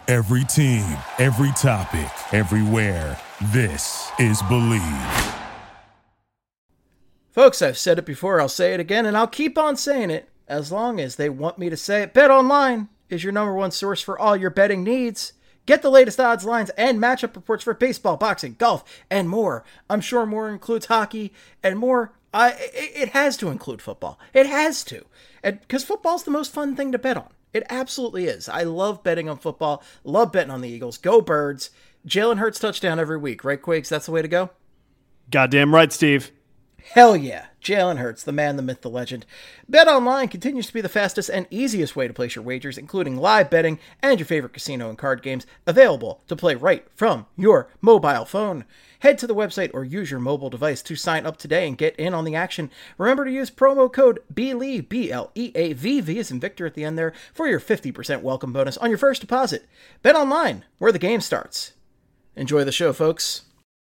Every team, every topic, everywhere. This is Believe. Folks, I've said it before, I'll say it again, and I'll keep on saying it as long as they want me to say it. BetOnline is your number one source for all your betting needs. Get the latest odds, lines, and matchup reports for baseball, boxing, golf, and more. I'm sure more includes hockey and more. It has to include football. It has to. Because football's the most fun thing to bet on. It absolutely is. I love betting on football. Love betting on the Eagles. Go Birds. Jalen Hurts touchdown every week. Right, Quakes? That's the way to go? Goddamn right, Steve. Hell yeah. Jalen Hurts, the man, the myth, the legend. BetOnline continues to be the fastest and easiest way to place your wagers, including live betting and your favorite casino and card games, available to play right from your mobile phone. Head to the website or use your mobile device to sign up today and get in on the action. Remember to use promo code BLEAV, B-L-E-A-V, as in Victor at the end there, for your 50% welcome bonus on your first deposit. BetOnline, where the game starts. Enjoy the show, folks.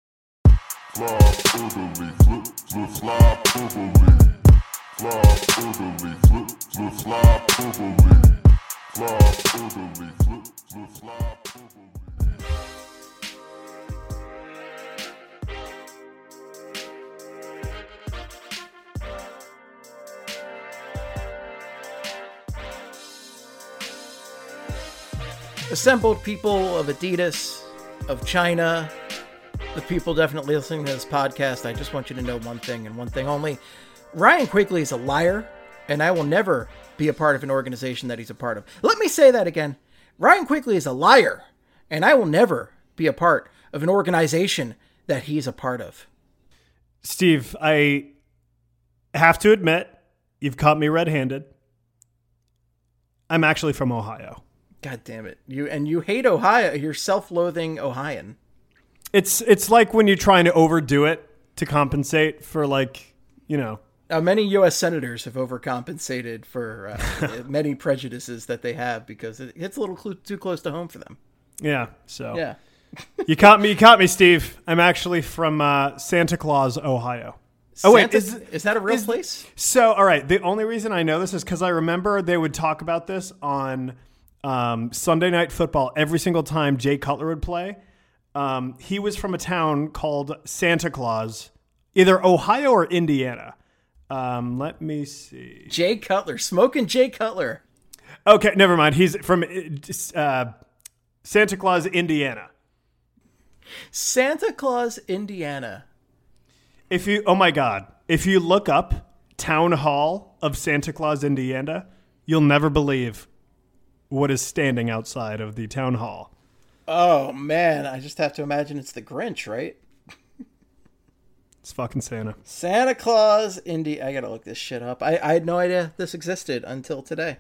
Assembled people of Adidas, of China, the people definitely listening to this podcast, I just want you to know one thing and one thing only. Ryan Quigley is a liar, and I will never be a part of an organization that he's a part of. Let me say that again. Ryan Quigley is a liar, and I will never be a part of an organization that he's a part of. Steve, I have to admit, you've caught me red-handed. I'm actually from Ohio. God damn it. You hate Ohio. You're self-loathing Ohioan. It's like when you're trying to overdo it to compensate for, like, you know. Many U.S. senators have overcompensated for many prejudices that they have because it hits a little too close to home for them. Yeah, so. Yeah. You caught me, Steve. I'm actually from Santa Claus, Ohio. Oh, wait. Is that a real place? So, all right. The only reason I know this is because I remember they would talk about this on Sunday Night Football every single time Jay Cutler would play. He was from a town called Santa Claus, either Ohio or Indiana. Let me see. Jay Cutler, smoking Jay Cutler. Okay, never mind. He's from Santa Claus, Indiana. Santa Claus, Indiana. Oh my God, if you look up Town Hall of Santa Claus, Indiana, you'll never believe what is standing outside of the town hall. Oh, man. I just have to imagine it's the Grinch, right? It's fucking Santa. Santa Claus, I gotta look this shit up. I had no idea this existed until today.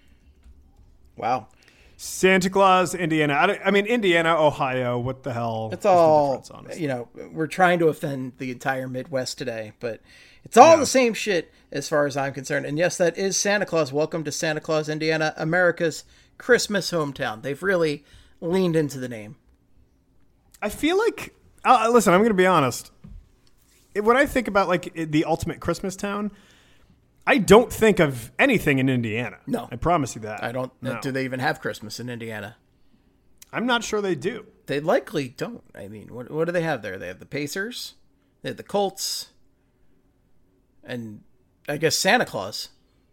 Wow. Santa Claus, Indiana. I mean, Indiana, Ohio, what the hell? It's all, the difference, honestly? You know, we're trying to offend the entire Midwest today, but it's all the same shit as far as I'm concerned. And yes, that is Santa Claus. Welcome to Santa Claus, Indiana, America's Christmas hometown. They've really leaned into the name. I feel like, listen, I'm going to be honest. When I think about like the ultimate Christmas town, I don't think of anything in Indiana. No. I promise you that. I don't. No. Do they even have Christmas in Indiana? I'm not sure they do. They likely don't. I mean, what do they have there? They have the Pacers, they have the Colts, and I guess Santa Claus.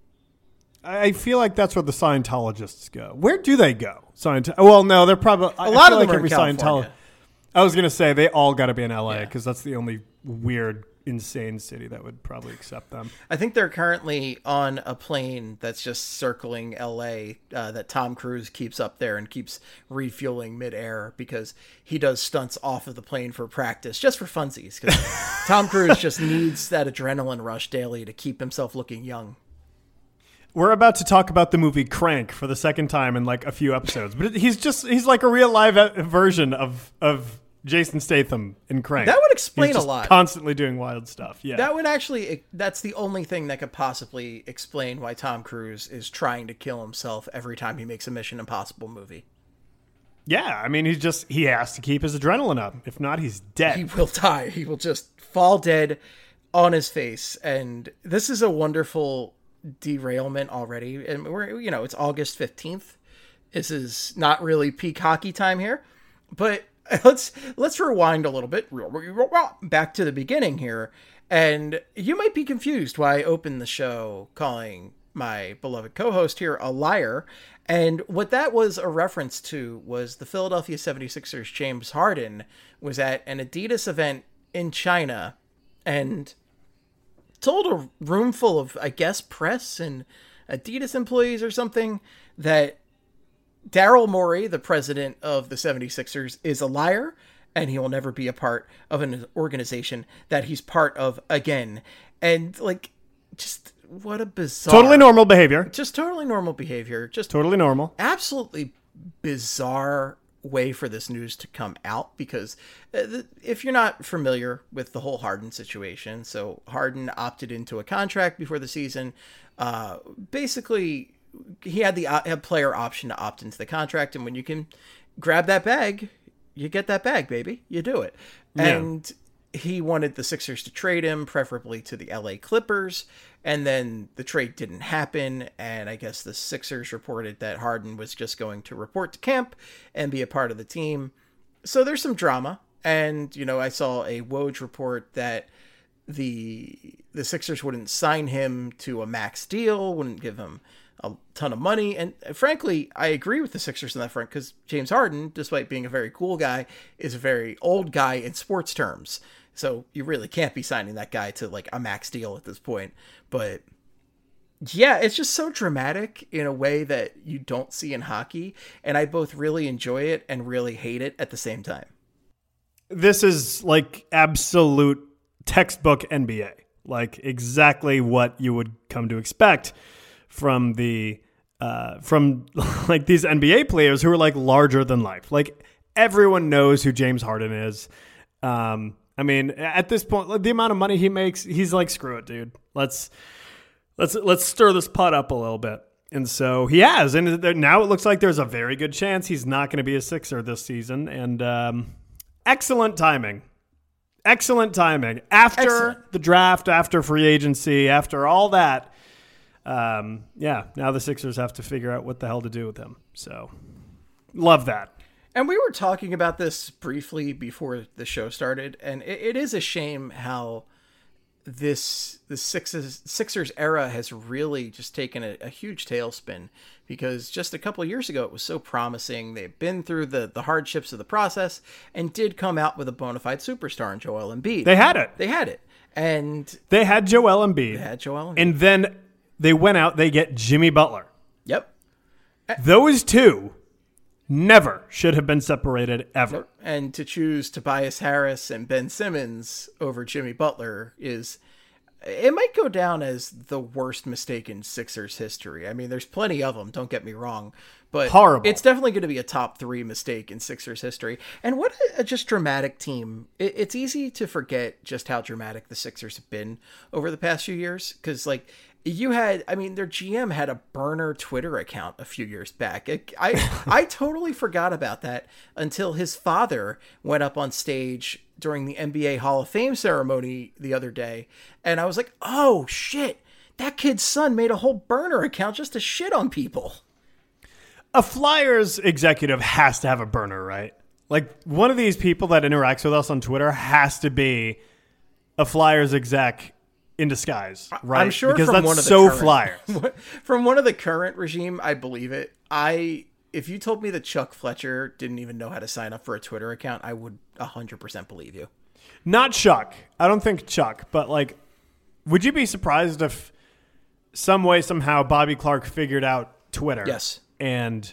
I feel like that's where the Scientologists go. Where do they go? Well, no, they're probably a lot of them are in California. I was gonna say they all got to be in LA because that's the only weird, insane city that would probably accept them. I think they're currently on a plane that's just circling LA that Tom Cruise keeps up there and keeps refueling midair because he does stunts off of the plane for practice, just for funsies. Because Tom Cruise just needs that adrenaline rush daily to keep himself looking young. We're about to talk about the movie Crank for the second time in like a few episodes, but he's like a real live version of Jason Statham in Crank. That would explain He's just a lot. Constantly doing wild stuff. Yeah. That would actually, that's the only thing that could possibly explain why Tom Cruise is trying to kill himself every time he makes a Mission Impossible movie. Yeah, I mean, he has to keep his adrenaline up. If not, he's dead. He will die. He will just fall dead on his face. And this is a wonderful derailment already. And it's August 15th. This is not really peak hockey time here, but let's rewind a little bit back to the beginning here. And you might be confused why I opened the show calling my beloved co-host here a liar. And what that was a reference to was the Philadelphia 76ers James Harden was at an Adidas event in China and told a room full of, I guess, press and Adidas employees or something that Daryl Morey, the president of the 76ers, is a liar and he will never be a part of an organization that he's part of again. And like, just what a bizarre... Totally normal behavior. Just totally normal behavior. Just totally normal. Absolutely bizarre way for this news to come out, because if you're not familiar with the whole Harden situation, so Harden opted into a contract before the season. Basically, he had the player option to opt into the contract, and when you can grab that bag, you get that bag, baby. You do it. Yeah. And he wanted the Sixers to trade him, preferably to the LA Clippers, and then the trade didn't happen, and I guess the Sixers reported that Harden was just going to report to camp and be a part of the team. So there's some drama, and, you know, I saw a Woj report that the Sixers wouldn't sign him to a max deal, wouldn't give him a ton of money, and frankly, I agree with the Sixers on that front, because James Harden, despite being a very cool guy, is a very old guy in sports terms. So you really can't be signing that guy to like a max deal at this point. But yeah, it's just so dramatic in a way that you don't see in hockey. And I both really enjoy it and really hate it at the same time. This is like absolute textbook NBA, like exactly what you would come to expect from the from like these NBA players who are like larger than life. Like everyone knows who James Harden is. I mean, at this point, the amount of money he makes, he's like, screw it, dude. Let's stir this pot up a little bit. And so he has. And now it looks like there's a very good chance he's not going to be a Sixer this season. And excellent timing. Excellent timing. After the draft, after free agency, after all that. Yeah, now the Sixers have to figure out what the hell to do with him. So love that. And we were talking about this briefly before the show started, and it is a shame how the Sixers era has really just taken a huge tailspin, because just a couple of years ago it was so promising. They've been through the hardships of the process and did come out with a bona fide superstar in Joel Embiid. They had it. And they had Joel Embiid. And then they went out, they get Jimmy Butler. Yep. Those two never should have been separated ever. And to choose Tobias Harris and Ben Simmons over Jimmy Butler it might go down as the worst mistake in Sixers history. I mean, there's plenty of them, don't get me wrong, but horrible. It's definitely going to be a top 3 mistake in Sixers history. And what a just dramatic team. It's easy to forget just how dramatic the Sixers have been over the past few years, because like, their GM had a burner Twitter account a few years back. I totally forgot about that until his father went up on stage during the NBA Hall of Fame ceremony the other day. And I was like, oh shit, that kid's son made a whole burner account just to shit on people. A Flyers executive has to have a burner, right? Like one of these people that interacts with us on Twitter has to be a Flyers exec in disguise, right? I'm sure because from that's one of the so current, Flyers. From one of the current regime, I believe it. If you told me that Chuck Fletcher didn't even know how to sign up for a Twitter account, I would 100% believe you. Not Chuck. I don't think Chuck, but like, would you be surprised if some way, somehow Bobby Clark figured out Twitter? Yes. And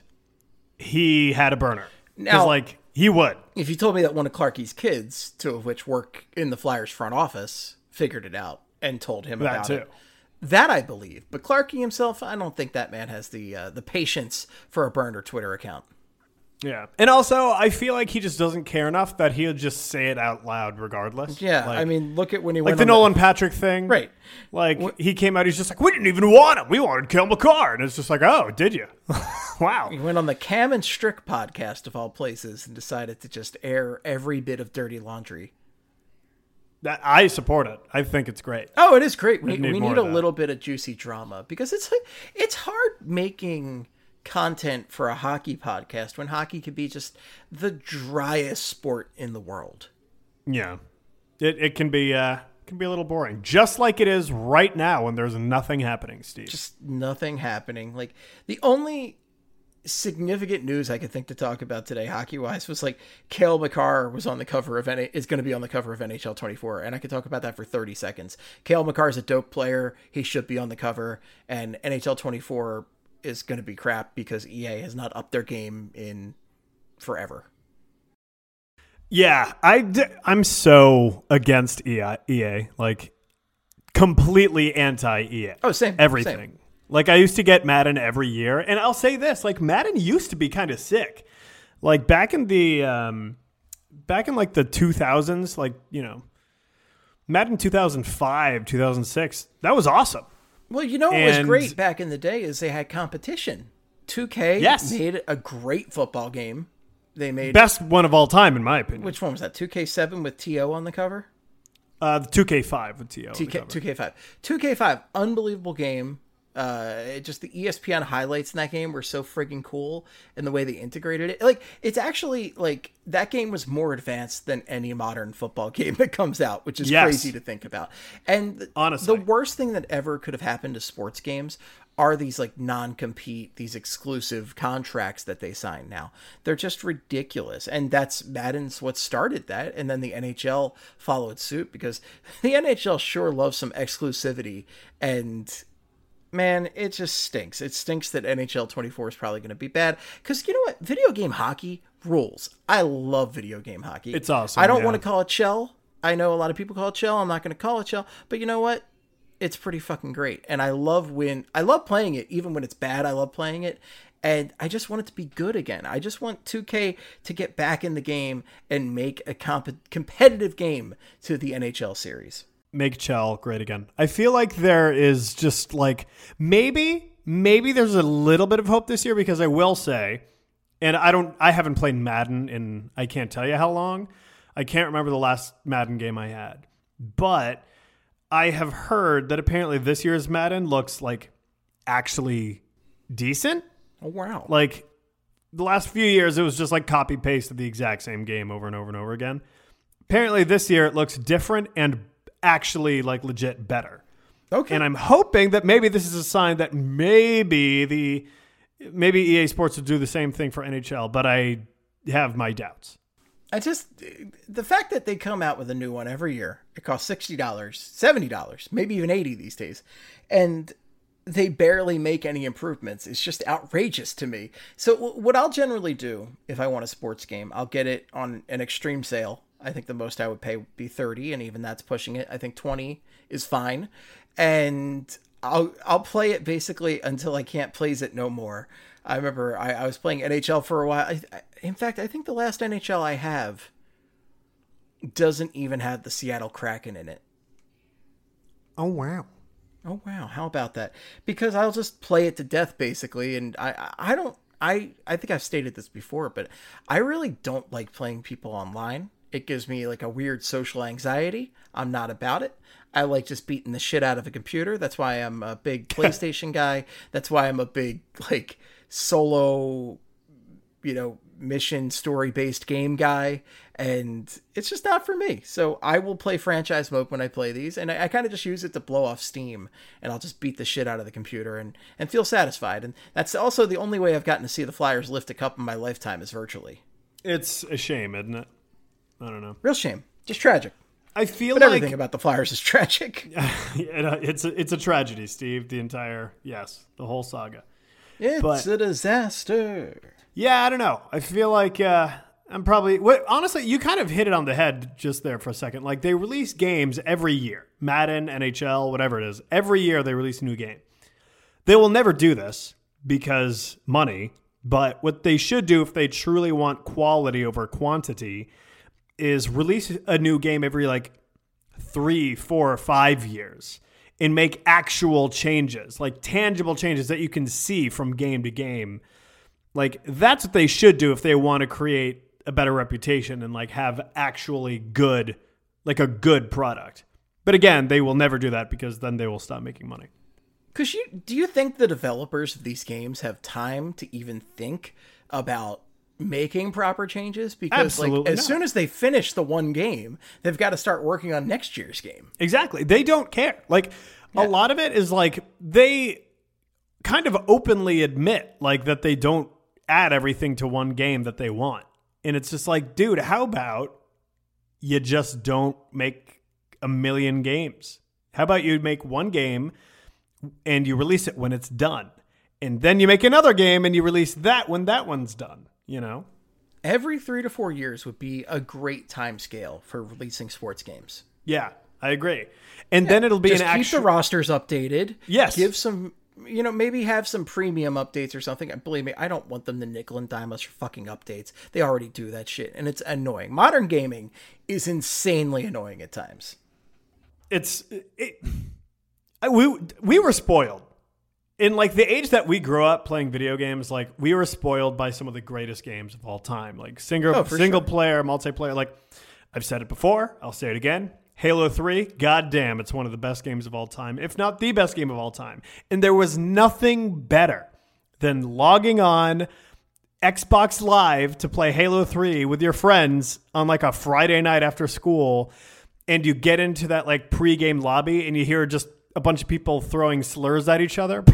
he had a burner. Now, like, he would. If you told me that one of Clarkie's kids, 2 of which work in the Flyers front office, figured it out and told him about it. That I believe. But Clarkie himself, I don't think that man has the patience for a burner Twitter account. Yeah. And also, I feel like he just doesn't care enough that he'll just say it out loud regardless. Yeah. Like, I mean, look at when he went like the Nolan Patrick thing. Right. Like, he came out, he's just like, we didn't even want him. We wanted Cale Makar. And it's just like, oh, did you? Wow. He went on the Cam and Strick podcast of all places and decided to just air every bit of dirty laundry. I support it. I think it's great. Oh, it is great. We need a little little bit of juicy drama, because it's hard making content for a hockey podcast when hockey could be just the driest sport in the world. Yeah. It can be a little boring, just like it is right now when there's nothing happening, Steve. Just nothing happening. Like, the only significant news I could think to talk about today, hockey-wise, was like Cale Makar was on the cover of is going to be on the cover of NHL 24, and I could talk about that for 30 seconds. Cale Makar is a dope player. He should be on the cover, and NHL 24 is going to be crap because EA has not upped their game in forever. Yeah, I'm so against EA, like completely anti-EA. Oh, same. Everything. Same. Like, I used to get Madden every year, and I'll say this, like, Madden used to be kind of sick. Like, back in the 2000s, like, you know, Madden 2005, 2006, that was awesome. Well, you know what was great back in the day is they had competition. 2K made a great football game. They made best one of all time, in my opinion. Which one was that? 2K7 with TO on the cover? The 2K5 with TO. 2K5. 2K5, unbelievable game. Just the ESPN highlights in that game were so friggin' cool, and the way they integrated it. Like, it's actually, like, that game was more advanced than any modern football game that comes out, which is crazy to think about. And honestly, the worst thing that ever could have happened to sports games are these, like, non-compete, these exclusive contracts that they sign now. They're just ridiculous. And Madden's what started that. And then the NHL followed suit, because the NHL sure loves some exclusivity, and man, it just stinks. It stinks that NHL 24 is probably going to be bad. Because you know what? Video game hockey rules. I love video game hockey. It's awesome. I don't want to call it shell. I know a lot of people call it shell. I'm not going to call it shell. But you know what? It's pretty fucking great. And I love playing it. Even when it's bad, I love playing it. And I just want it to be good again. I just want 2K to get back in the game and make a competitive game to the NHL series. Make Chell great again. I feel like there is just like maybe there's a little bit of hope this year, because I will say, and I haven't played Madden in I can't tell you how long. I can't remember the last Madden game I had, but I have heard that apparently this year's Madden looks like actually decent. Oh wow! Like the last few years, it was just like copy paste of the exact same game over and over and over again. Apparently this year it looks different and actually like legit better. Okay. And I'm hoping that maybe this is a sign that maybe EA Sports will do the same thing for NHL, but I have my doubts. The fact that they come out with a new one every year, it costs $60, $70, maybe even $80 these days, and they barely make any improvements, is just outrageous to me. So what I'll generally do if I want a sports game, I'll get it on an extreme sale. I think the most I would pay would be $30, and even that's pushing it. I think $20 is fine. And I'll play it basically until I can't plays it no more. I remember I was playing NHL for a while. In fact, I think the last NHL I have doesn't even have the Seattle Kraken in it. Oh, wow. Oh, wow. How about that? Because I'll just play it to death, basically. And I think I've stated this before, but I really don't like playing people online. It gives me like a weird social anxiety. I'm not about it. I like just beating the shit out of a computer. That's why I'm a big PlayStation guy. That's why I'm a big like solo, mission story-based game guy. And it's just not for me. So I will play franchise mode when I play these. And I kind of just use it to blow off steam. And I'll just beat the shit out of the computer and feel satisfied. And that's also the only way I've gotten to see the Flyers lift a cup in my lifetime is virtually. It's a shame, isn't it? I don't know. Real shame. Just tragic. I feel but everything about the Flyers is tragic. It's a tragedy, Steve. The whole saga. It's a disaster. Yeah, I don't know. I feel like I'm probably... honestly, you kind of hit it on the head just there for a second. Like, they release games every year. Madden, NHL, whatever it is. Every year they release a new game. They will never do this because money. But what they should do if they truly want quality over quantity is release a new game every 3, 4, 5 years and make actual changes, like tangible changes that you can see from game to game. Like, that's what they should do if they want to create a better reputation and have actually good, a good product. But again, they will never do that because then they will stop making money. Because do you think the developers of these games have time to even think about making proper changes? Because as soon as they finish the one game, they've got to start working on next year's game. Exactly. They don't care. Like, a lot of it is like they kind of openly admit like that they don't add everything to one game that they want. And it's just like, dude, how about you just don't make a million games? How about you make one game and you release it when it's done? And then you make another game and you release that when that one's done, you know? Every 3 to 4 years would be a great time scale for releasing sports games. Yeah, I agree. And then it'll be just keep the rosters updated. Yes. Give some, maybe have some premium updates or something. Believe me, I don't want them to nickel and dime us for fucking updates. They already do that shit, and it's annoying. Modern gaming is insanely annoying at times. We were spoiled. In like the age that we grew up playing video games, like we were spoiled by some of the greatest games of all time, like single player, multiplayer. Like I've said it before, I'll say it again. Halo 3, goddamn, it's one of the best games of all time, if not the best game of all time. And there was nothing better than logging on Xbox Live to play Halo 3 with your friends on like a Friday night after school, and you get into that like pre-game lobby and you hear just a bunch of people throwing slurs at each other.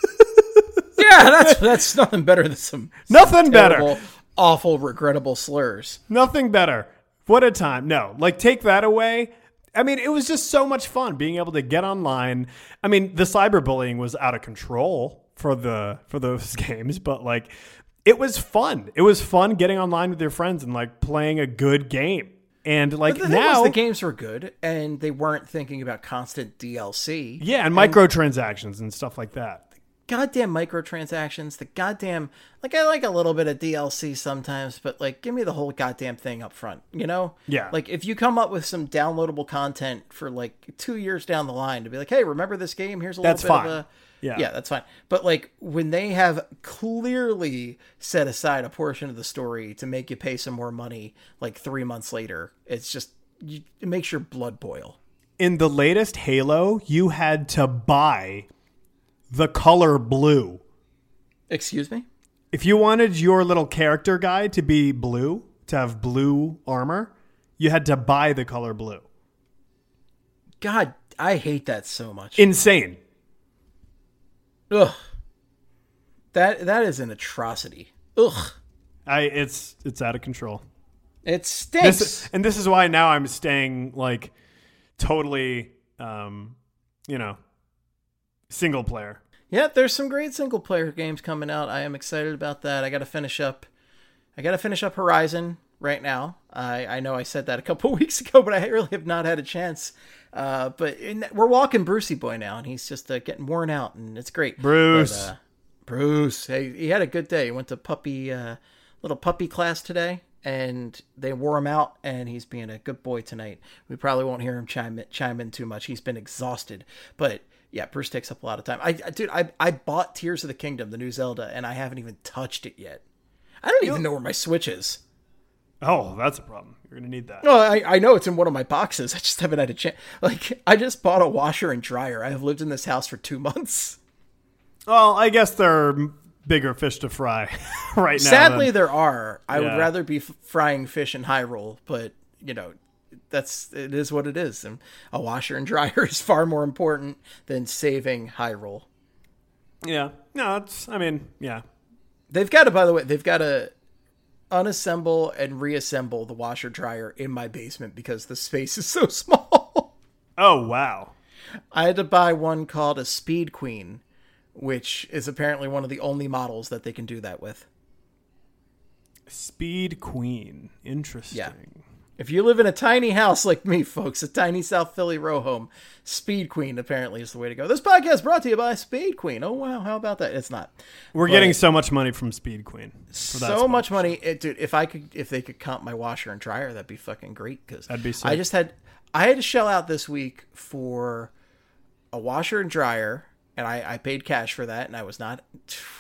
Yeah, that's nothing better than some terrible, better, awful, regrettable slurs. Nothing better. What a time. No, like take that away. I mean, it was just so much fun being able to get online. I mean, the cyberbullying was out of control for those games, but like it was fun. It was fun getting online with your friends and like playing a good game. And like but the thing was, the games were good and they weren't thinking about constant DLC. Yeah, and microtransactions and stuff like that. Goddamn microtransactions, the goddamn, like I like a little bit of DLC sometimes, but like give me the whole goddamn thing up front, you know? Yeah. Like if you come up with some downloadable content for like 2 years down the line to be like, hey, remember this game? Here's a little bit of a... Yeah, that's fine. But like when they have clearly set aside a portion of the story to make you pay some more money like 3 months later, it's just, it makes your blood boil. In the latest Halo, you had to buy the color blue. Excuse me? If you wanted your little character guy to be blue, to have blue armor, you had to buy the color blue. God, I hate that so much. Insane. Ugh. That is an atrocity. Ugh. It's out of control. It stinks. This is why now I'm staying like totally single player. Yeah, there's some great single player games coming out. I am excited about that. I got to finish up Horizon right now. I know I said that a couple weeks ago, but I really have not had a chance. But we're walking Brucey boy now, and he's just getting worn out, and it's great. Bruce. Bruce. Hey, he had a good day. He went to little puppy class today, and they wore him out, and he's being a good boy tonight. We probably won't hear him chime in too much. He's been exhausted, but yeah, Bruce takes up a lot of time. I bought Tears of the Kingdom, the new Zelda, and I haven't even touched it yet. I don't even know where my Switch is. Oh, that's a problem. You're going to need that. Well, I know it's in one of my boxes. I just haven't had a chance. Like, I just bought a washer and dryer. I have lived in this house for 2 months. Well, I guess there are bigger fish to fry right now. Sadly, there are. I would rather be frying fish in Hyrule, but, it is what it is. And a washer and dryer is far more important than saving Hyrule. Yeah. No, yeah. They've got to unassemble and reassemble the washer dryer in my basement because the space is so small. Oh, wow. I had to buy one called a Speed Queen, which is apparently one of the only models that they can do that with. Speed Queen. Interesting. Yeah. If you live in a tiny house like me, folks, a tiny South Philly row home, Speed Queen apparently is the way to go. This podcast brought to you by Speed Queen. Oh, wow. How about that? It's not. We're getting so much money from Speed Queen. So much money. Dude, if they could comp my washer and dryer, that'd be fucking great. Because that'd be sick. I had to shell out this week for a washer and dryer, and I paid cash for that, and I was not...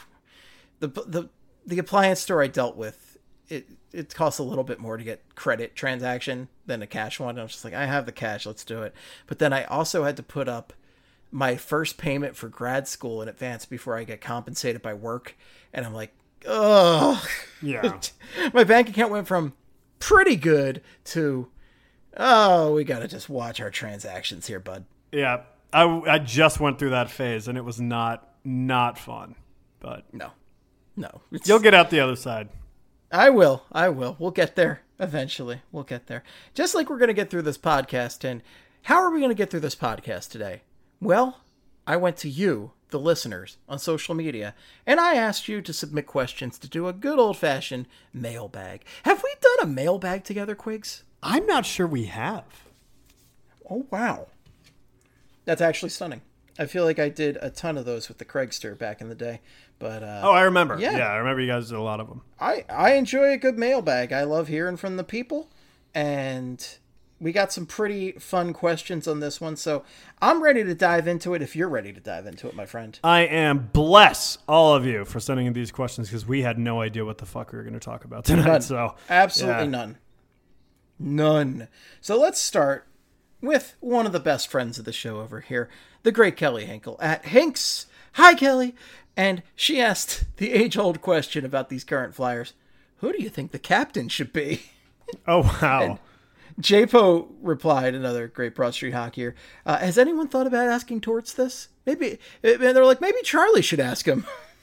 The appliance store I dealt with, it costs a little bit more to get credit transaction than a cash one. I was just like, I have the cash, let's do it. But then I also had to put up my first payment for grad school in advance before I get compensated by work. And I'm like, ugh. Yeah. My bank account went from pretty good to, oh, we got to just watch our transactions here, bud. Yeah. I just went through that phase, and it was not fun. But No. you'll get out the other side. I will. We'll get there eventually. We'll get there. Just like we're going to get through this podcast. And how are we going to get through this podcast today? Well, I went to you, the listeners, on social media, and I asked you to submit questions to do a good old-fashioned mailbag. Have we done a mailbag together, Quigs? I'm not sure we have. Oh, wow. That's actually stunning. I feel like I did a ton of those with the Craigster back in the day. But I remember. Yeah. I remember you guys did a lot of them. I enjoy a good mailbag. I love hearing from the people, and we got some pretty fun questions on this one, so I'm ready to dive into it if you're ready to dive into it, my friend. I am. Bless all of you for sending in these questions, because we had no idea what the fuck we were going to talk about tonight. None. So Absolutely none. So let's start with one of the best friends of the show over here, the great Kelly Hinkle at Hinks. Hi, Kelly. And she asked the age-old question about these current Flyers. Who do you think the captain should be? Oh, wow. And JPO replied, another great Broad Street hockeyer, has anyone thought about asking Torts this? Maybe, and they're like, maybe Charlie should ask him.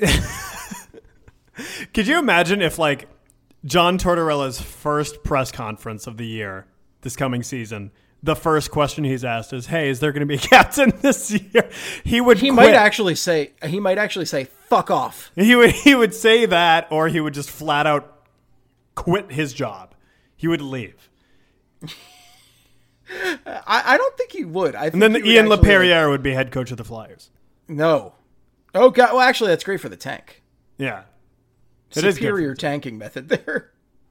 Could you imagine if, like, John Tortorella's first press conference of the year, this coming season, the first question he's asked is, hey, is there going to be a captain this year? He quit. might actually say, fuck off. He would say that, or he would just flat out quit his job. He would leave. I don't think he would. And then Ian LaPerriere would be head coach of the Flyers. No. Oh, God. Well, actually, that's great for the tank. Yeah. Superior tanking method there.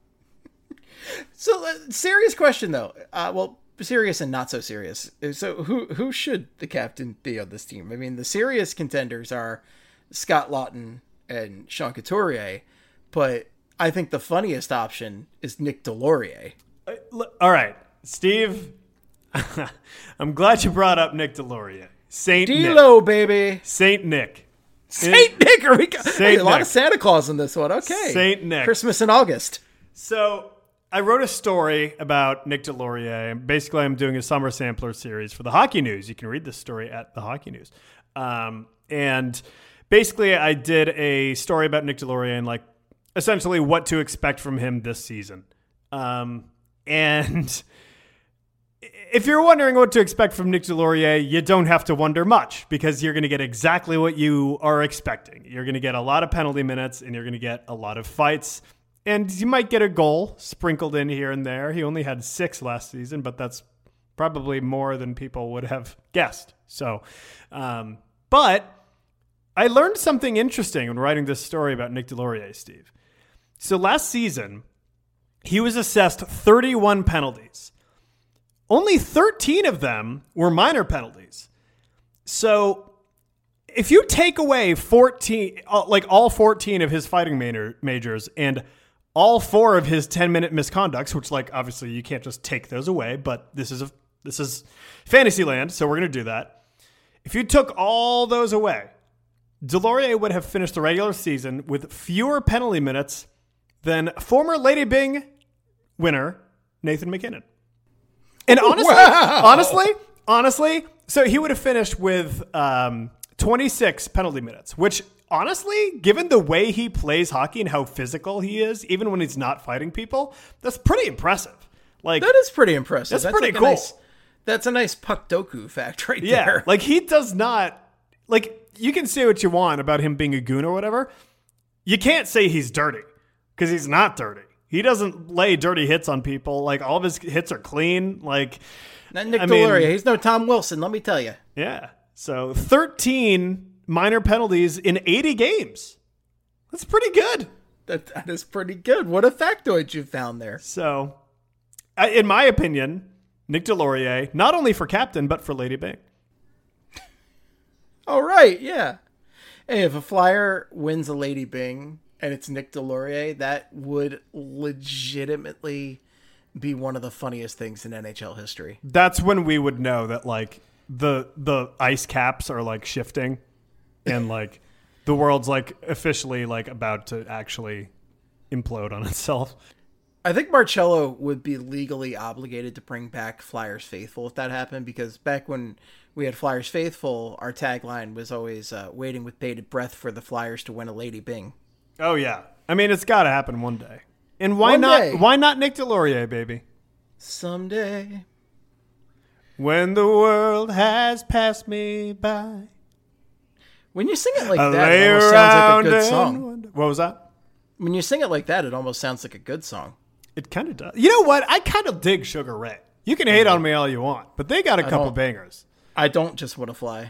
So, serious question, though. Serious and not so serious. So, who should the captain be on this team? I mean, the serious contenders are Scott Laughton and Sean Couturier, but I think the funniest option is Nick Delorier. All right, Steve, I'm glad you brought up Nick Delorier. Saint D-Lo, Nick. baby. Saint Nick. Saint Nick. Are we Saint a lot of Santa Claus in this one. Okay. Saint Nick. Christmas in August. So I wrote a story about Nick Delorier. Basically, I'm doing a summer sampler series for the Hockey News. You can read this story at the Hockey News. And basically, I did a story about Nick Delorier and, like, essentially what to expect from him this season. And if you're wondering what to expect from Nick Delorier, you don't have to wonder much, because you're going to get exactly what you are expecting. You're going to get a lot of penalty minutes, and you're going to get a lot of fights, and you might get a goal sprinkled in here and there. He only had 6 last season, but that's probably more than people would have guessed. So, but I learned something interesting when writing this story about Nick Delorier, Steve. So last season, he was assessed 31 penalties. Only 13 of them were minor penalties. So if you take away 14, like all 14 of his fighting majors and all 4 of his 10-minute misconducts, which, like, obviously you can't just take those away, but this is fantasy land, so we're going to do that. If you took all those away, Delorier would have finished the regular season with fewer penalty minutes than former Lady Byng winner Nathan MacKinnon. And honestly, so he would have finished with 26 penalty minutes, which, honestly, given the way he plays hockey and how physical he is, even when he's not fighting people, that's pretty impressive. Like, that is pretty impressive. That's pretty cool. That's a nice puck doku fact right there. Yeah, like, he does not, like, you can say what you want about him being a goon or whatever. You can't say he's dirty, because he's not dirty. He doesn't lay dirty hits on people. Like, all of his hits are clean. Like, not Nick Delorier. He's no Tom Wilson, let me tell you. Yeah. So 13 minor penalties in 80 games. That's pretty good. That is pretty good. What a factoid you found there. So, in my opinion, Nick Delorier, not only for captain, but for Lady Byng. All right, yeah. Hey, if a Flyer wins a Lady Byng and it's Nick Delorier, that would legitimately be one of the funniest things in NHL history. That's when we would know that, like, the ice caps are like shifting, and like the world's like officially like about to actually implode on itself. I think Marcello would be legally obligated to bring back Flyers Faithful if that happened, because back when we had Flyers Faithful, our tagline was always waiting with bated breath for the Flyers to win a Lady Byng. Oh yeah, I mean it's got to happen one day. And why One not? day. Why not Nick Delorier, baby? Someday. When the world has passed me by, When you sing it like I that, lay it almost sounds like a around good and song. wonder. What was that? When you sing it like that, it almost sounds like a good song. It kind of does. You know what? I kind of dig Sugar Ray. You can hate on me all you want, but they got a couple don't. bangers. I don't just want to fly.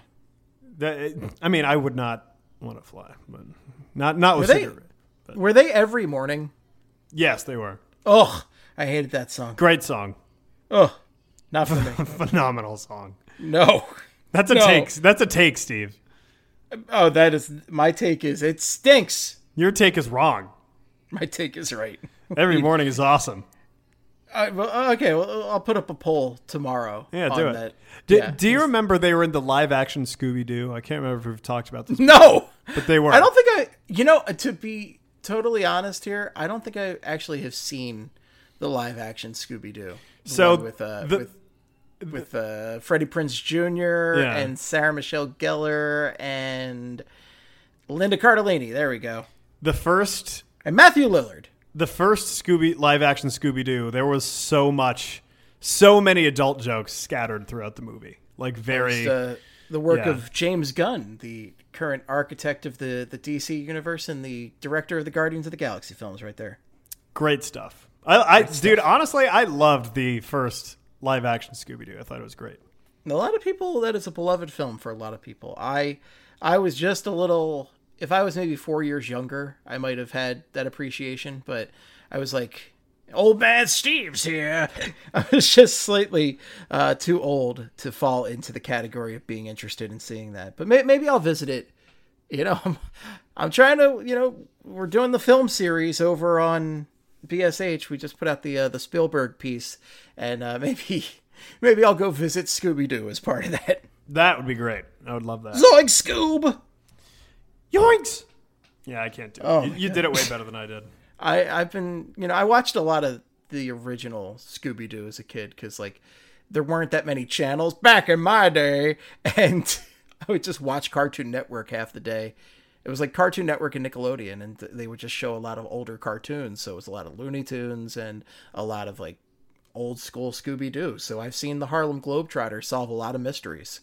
I mean, I would not want to fly, but not with Were they- Sugar Ray. But Were they every morning? yes, they were. Ugh, I hated that song. Great song. Ugh, not for me. Phenomenal song. No. That's a No. take. That's a take, Steve. Oh, that is, my take is, it stinks. Your take is wrong. My take is right. Every morning is awesome. Okay, well, I'll put up a poll tomorrow. Yeah, on do it. that. Do, Yeah. do you remember they were in the live action Scooby-Doo? I can't remember if we've talked about this, No! but they were. I don't think to be totally honest here, I don't think I actually have seen the live action Scooby-Doo. The So one with Freddie Prinze Jr. Yeah. and Sarah Michelle Gellar and Linda Cardellini. There we go. the first And Matthew Lillard. live action Scooby-Doo, there was so many adult jokes scattered throughout the movie. Like very The work Yeah. of James Gunn, the current architect of the DC universe and the director of the Guardians of the Galaxy films, right there. great stuff. Dude, honestly, I loved the first live action Scooby-Doo. I thought it was great. A lot of people, that is a beloved film for a lot of people. I was just a little, if I was maybe 4 years younger, I might have had that appreciation, but I was like, old man Steve's here. I was just slightly too old to fall into the category of being interested in seeing that. But maybe I'll visit it. You know, I'm trying to, we're doing the film series over on BSH. We just put out the Spielberg piece, and maybe I'll go visit Scooby-Doo as part of that. That would be great. I would love that. Zoink Scoob! Yoinks! Yeah, I can't do it. Oh, You did it way better than I did. I've been, I watched a lot of the original Scooby-Doo as a kid because, like, there weren't that many channels back in my day, and I would just watch Cartoon Network half the day. It was like Cartoon Network and Nickelodeon, and they would just show a lot of older cartoons, so it was a lot of Looney Tunes and a lot of, like, old school Scooby-Doo. So I've seen the Harlem Globetrotters solve a lot of mysteries.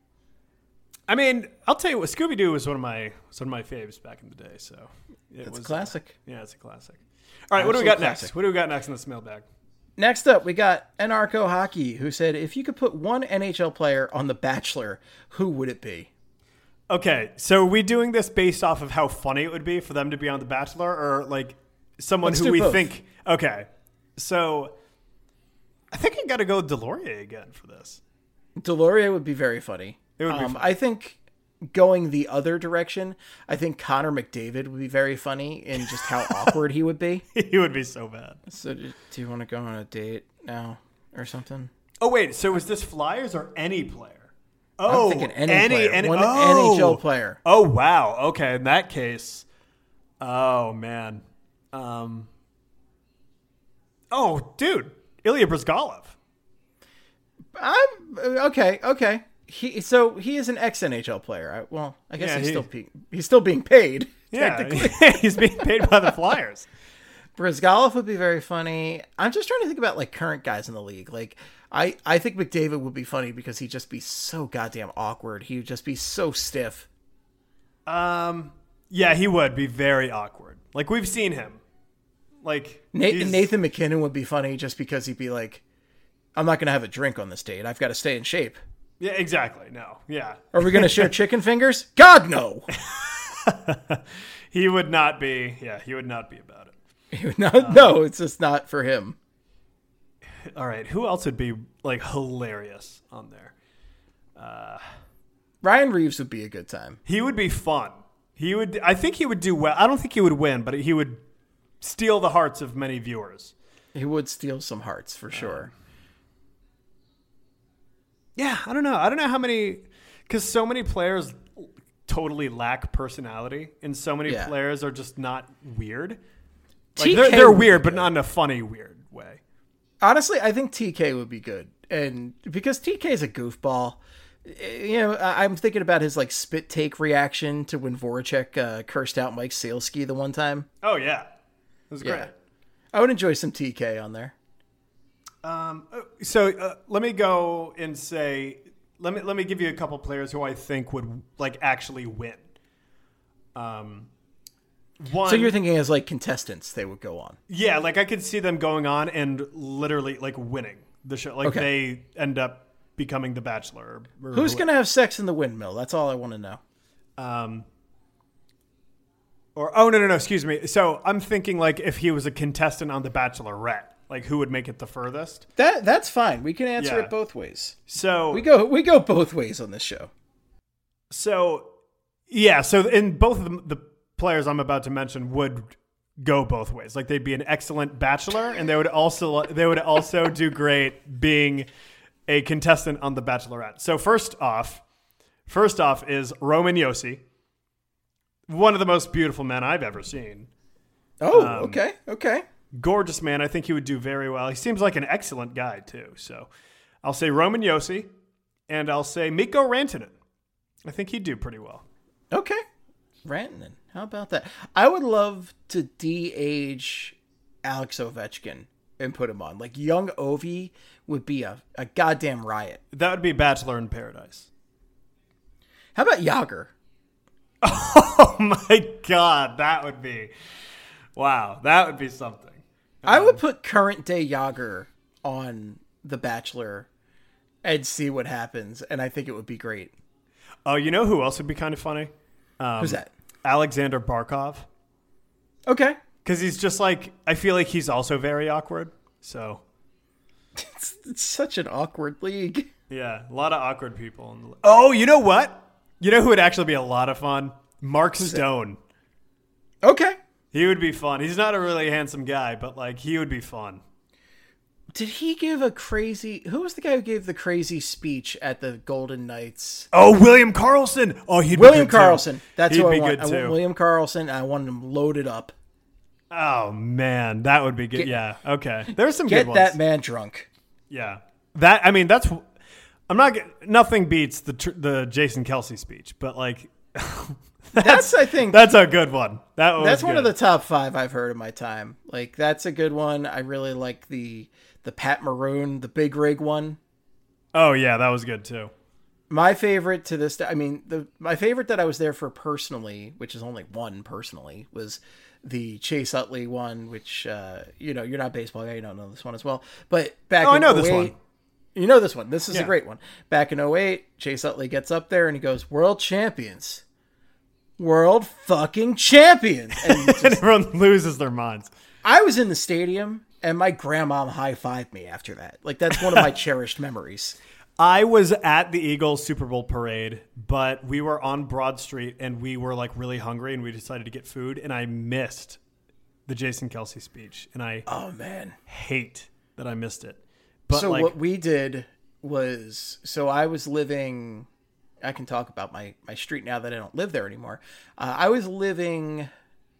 I mean, I'll tell you what, Scooby-Doo was one of my faves back in the day, so It's a classic. Yeah, it's a classic. All right, what do we Absolute got classic. next? What do we got next in this mailbag? Next up, we got Anarcho Hockey, who said, if you could put one NHL player on The Bachelor, who would it be? Okay, so are we doing this based off of how funny it would be for them to be on The Bachelor, or like someone Let's who do we both. think? Okay, so I think I got to go with Delorier again for this. Delorier would be very funny. It would be fun. I think going the other direction, I think Connor McDavid would be very funny in just how awkward he would be. He would be so bad. So do you want to go on a date now or something? Oh wait, so is this Flyers or any player? Oh, I'm thinking any player. One oh. NHL player. Oh wow. Okay, in that case, oh man. Oh dude, Ilya Bryzgalov. Okay. He is an ex-NHL player. I guess Yeah, he's still being paid. Yeah, technically. he's being paid by the Flyers. Bryzgalov would be very funny. I'm just trying to think about like current guys in the league. Like I think McDavid would be funny because he'd just be so goddamn awkward. He would just be so stiff. Yeah, he would be very awkward. Like we've seen him. Like Nathan McKinnon would be funny just because he'd be like, I'm not going to have a drink on this date. I've got to stay in shape. Yeah, exactly. No. Yeah. Are we going to share chicken fingers? God, no. He would not be. Yeah, he would not be about it. No, it's just not for him. All right, who else would be like hilarious on there? Ryan Reeves would be a good time. He would be fun. I think he would do well. I don't think he would win, but he would steal the hearts of many viewers. He would steal some hearts for sure. Yeah, I don't know. I don't know how many, because so many players totally lack personality, and so many players are just not weird. Like they're weird, but not in a funny, weird way. Honestly, I think TK would be good, and because TK is a goofball. You know, I'm thinking about his like spit take reaction to when Voracek cursed out Mike Saleski the one time. Oh yeah, it was great. Yeah. I would enjoy some TK on there. So let me go and say, let me give you a couple players who I think would like actually win. One. So you're thinking as like contestants they would go on? Yeah, like I could see them going on and literally like winning the show. Like they end up becoming the Bachelor. Who's going to have sex in the windmill? That's all I want to know. No, excuse me. So I'm thinking like if he was a contestant on the Bachelorette, like who would make it the furthest? That's fine. We can answer it both ways. So we go both ways on this show. So yeah, so in both of the players I'm about to mention would go both ways. Like they'd be an excellent Bachelor, and they would also do great being a contestant on The Bachelorette. So first off is Roman Josi, one of the most beautiful men I've ever seen. Oh, okay. Gorgeous man. I think he would do very well. He seems like an excellent guy too. So I'll say Roman Josi, and I'll say Mikko Rantanen. I think he'd do pretty well. Okay. Rantanen. How about that? I would love to de-age Alex Ovechkin and put him on. Like young Ovi would be a goddamn riot. That would be Bachelor in Paradise. How about Yager? Oh my God, that would be something. I would put current day Yager on The Bachelor and see what happens, and I think it would be great. Oh, you know who else would be kind of funny? Who's that? Alexander Barkov. Okay. Because he's just like, I feel like he's also very awkward. So it's such an awkward league. Yeah, a lot of awkward people. Oh, you know what? You know who would actually be a lot of fun? Mark Stone. Okay. He would be fun. He's not a really handsome guy, but like he would be fun. Did he give who was the guy who gave the crazy speech at the Golden Knights? Oh, William Karlsson. Oh, he'd William be good Karlsson. Too. That's he'd who be I want. Good too. I want William Karlsson. I want him loaded up. Oh man, that would be good. Yeah. Okay. There's some good ones. Get that man drunk. Yeah. Nothing beats the Jason Kelce speech, but like that's a good one. That's one of the top 5 I've heard in my time. Like that's a good one. I really like the Pat Maroon, the big rig one. Oh yeah, that was good too. My favorite to this day, my favorite that I was there for personally, which is only one personally, was the Chase Utley one, which you're not a baseball guy, you don't know this one as well. But back in I know 08, this one. You know this one. This is a great one. Back in 08, Chase Utley gets up there and he goes, "World champions. World fucking champions." And everyone loses their minds. I was in the stadium and my grandma high-fived me after that. Like that's one of my cherished memories. I was at the Eagles Super Bowl parade, but we were on Broad Street and we were like really hungry and we decided to get food, and I missed the Jason Kelce speech, and I hate that I missed it. But so what we did was, I was living, I can talk about my street now that I don't live there anymore. I was living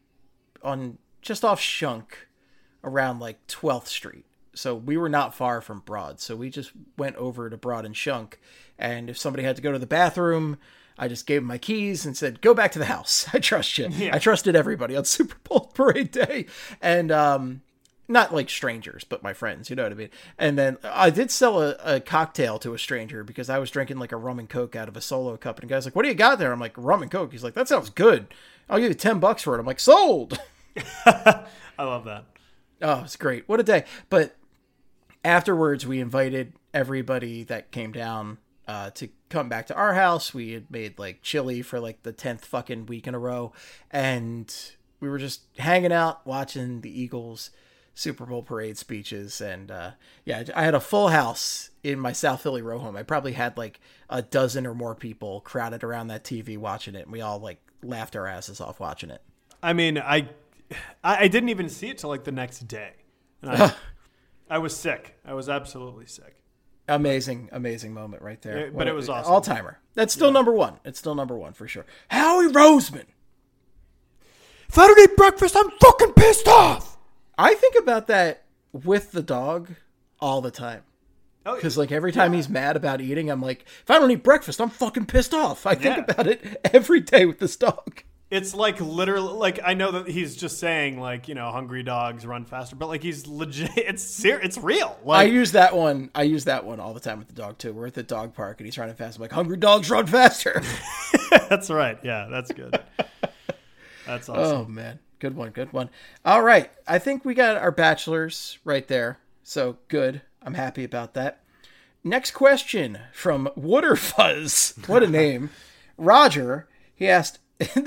on just off Shunk around like 12th Street. So we were not far from Broad. So we just went over to Broad and Shunk. And if somebody had to go to the bathroom, I just gave them my keys and said, "Go back to the house. I trust you." Yeah. I trusted everybody on Super Bowl parade day. And not like strangers, but my friends, you know what I mean? And then I did sell a cocktail to a stranger because I was drinking like a rum and Coke out of a Solo cup. And the guy's like, "What do you got there?" I'm like, "Rum and Coke." He's like, "That sounds good. I'll give you $10 for it." I'm like, "Sold." I love that. Oh, it's great. What a day. But afterwards, we invited everybody that came down to come back to our house. We had made like chili for like the 10th fucking week in a row. And we were just hanging out, watching the Eagles Super Bowl parade speeches. And I had a full house in my South Philly row home. I probably had like a dozen or more people crowded around that TV watching it. And we all like laughed our asses off watching it. I mean, I didn't even see it till like the next day. And I was sick. I was absolutely sick. Amazing moment right there. But it was awesome. All-timer. That's still number one. It's still number one for sure. Howie Roseman. If I don't eat breakfast, I'm fucking pissed off. I think about that with the dog all the time. Because like every time he's mad about eating, I'm like, if I don't eat breakfast, I'm fucking pissed off. I think about it every day with this dog. It's like literally, like I know that he's just saying like, you know, hungry dogs run faster, but like he's legit. It's real. Like, I use that one all the time with the dog too. We're at the dog park and he's running fast. I'm like, hungry dogs run faster. That's right. Yeah, that's good. That's awesome. Oh man, good one. All right, I think we got our bachelors right there. So good. I'm happy about that. Next question from Wooderfuzz. What a name. Roger, he asked,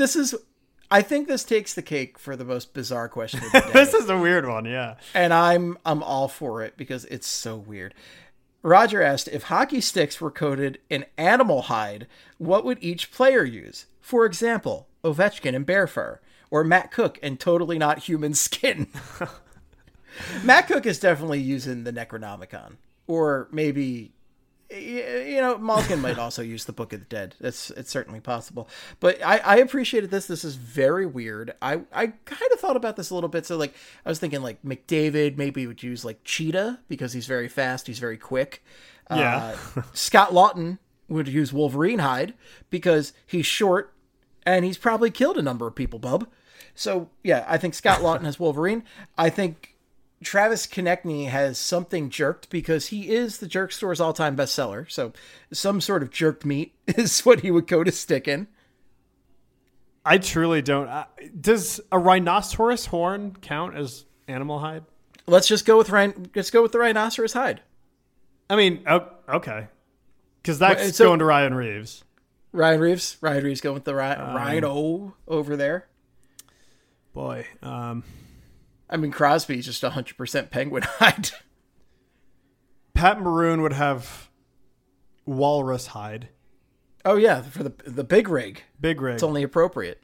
I think this takes the cake for the most bizarre question of the day. This is a weird one, yeah. And I'm all for it because it's so weird. Roger asked, if hockey sticks were coated in animal hide, what would each player use? For example, Ovechkin in bear fur, or Matt Cook in totally not human skin. Matt Cook is definitely using the Necronomicon. Or maybe, you know, Malkin might also use the Book of the Dead. It's certainly possible. But I appreciated this. This is very weird. I kind of thought about this a little bit. So, like, I was thinking, like, McDavid maybe would use, like, Cheetah because he's very fast. He's very quick. Yeah. Scott Lawton would use Wolverine hide because he's short and he's probably killed a number of people, bub. So, yeah, I think Scott Lawton has Wolverine. I think Travis Konechny has something jerked because he is the Jerk Store's all-time bestseller. So some sort of jerked meat is what he would go to stick in. I truly don't. Does a rhinoceros horn count as animal hide? Let's just go with the rhinoceros hide. I mean, okay, because that's going to Ryan Reeves. Ryan Reeves going with the rhino over there. Boy, I mean, Crosby's just 100% penguin hide. Pat Maroon would have walrus hide. Oh yeah, for the big rig. Big rig. It's only appropriate.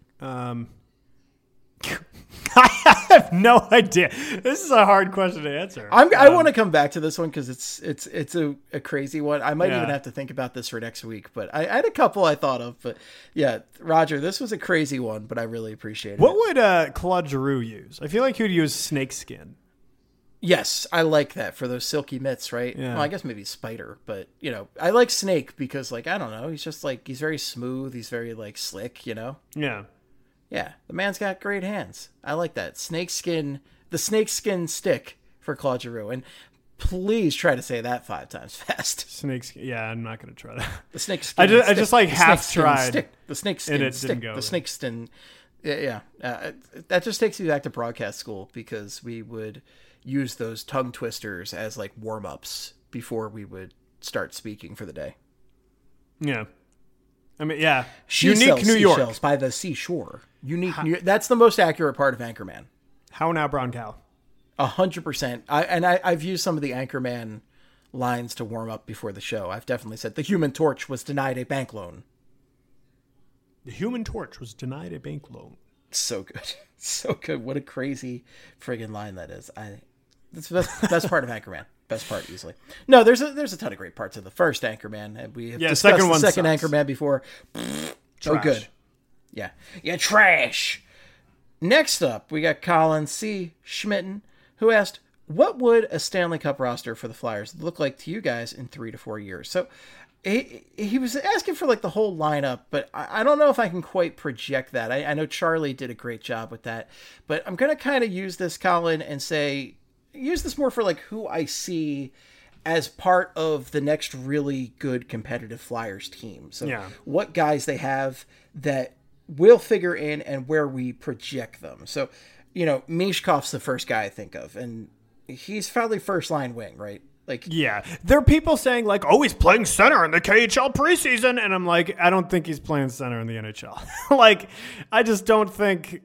I have no idea. This is a hard question to answer. I want to come back to this one because it's a crazy one. I might even have to think about this for next week. But I had a couple I thought of. But yeah, Roger, this was a crazy one, but I really appreciate it. What would Claude Giroux use? I feel like he would use snakeskin. Yes, I like that for those silky mitts, right? Yeah. Well, I guess maybe spider, but you know, I like snake because like, I don't know, he's just like, he's very smooth. He's very like slick, you know? Yeah. Yeah. The man's got great hands. I like that. The snakeskin stick for Claude Giroux. And please try to say that 5 times fast. Snakeskin. Yeah, I'm not going to try that. The snakeskin. I just like half tried. Stick. The snakeskin and it stick. didn't go The snakeskin. Yeah. That just takes me back to broadcast school because we would use those tongue twisters as like warm-ups before we would start speaking for the day. Yeah. I mean, yeah. She Unique sells New York. seashells by the seashore. Unique New York. That's the most accurate part of Anchorman. How now, brown cow? 100%. I've used some of the Anchorman lines to warm up before the show. I've definitely said the Human Torch was denied a bank loan. The Human Torch was denied a bank loan. So good. So good. What a crazy friggin' line that is. That's the best part of Anchorman. Best part easily. No, there's a ton of great parts of the first Anchorman. And we have discussed the second Anchorman before. Oh, good. Yeah. Yeah, trash. Next up, we got Colin C. Schmitten, who asked, what would a Stanley Cup roster for the Flyers look like to you guys in 3 to 4 years? So he was asking for like the whole lineup, but I don't know if I can quite project that. I know Charlie did a great job with that, but I'm going to kind of use this, Colin, and use this more for like who I see as part of the next really good competitive Flyers team. So what guys they have that will figure in and where we project them. So, you know, Mishkov's the first guy I think of, and he's probably first line wing, right? Like, yeah, there are people saying like, oh, he's playing center in the KHL preseason. And I'm like, I don't think he's playing center in the NHL. Like, I just don't think,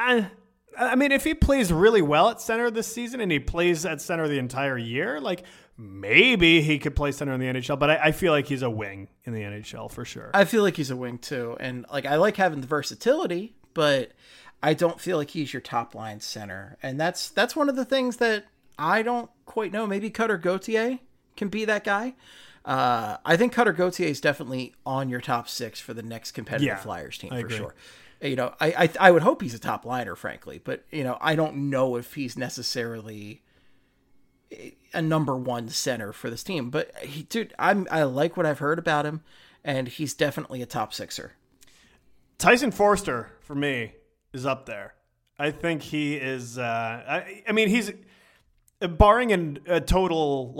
I mean, if he plays really well at center this season and he plays at center the entire year, like maybe he could play center in the NHL, but I feel like he's a wing in the NHL for sure. I feel like he's a wing too. And like, I like having the versatility, but I don't feel like he's your top line center. And that's one of the things that I don't quite know. Maybe Cutter Gauthier can be that guy. I think Cutter Gauthier is definitely on your top 6 for the next competitive Flyers team for sure. You know, I would hope he's a top liner, frankly, but you know, I don't know if he's necessarily a number 1 center for this team. But I like what I've heard about him, and he's definitely a top 6er. Tyson Foerster for me is up there. I think he is. I mean, he's barring a total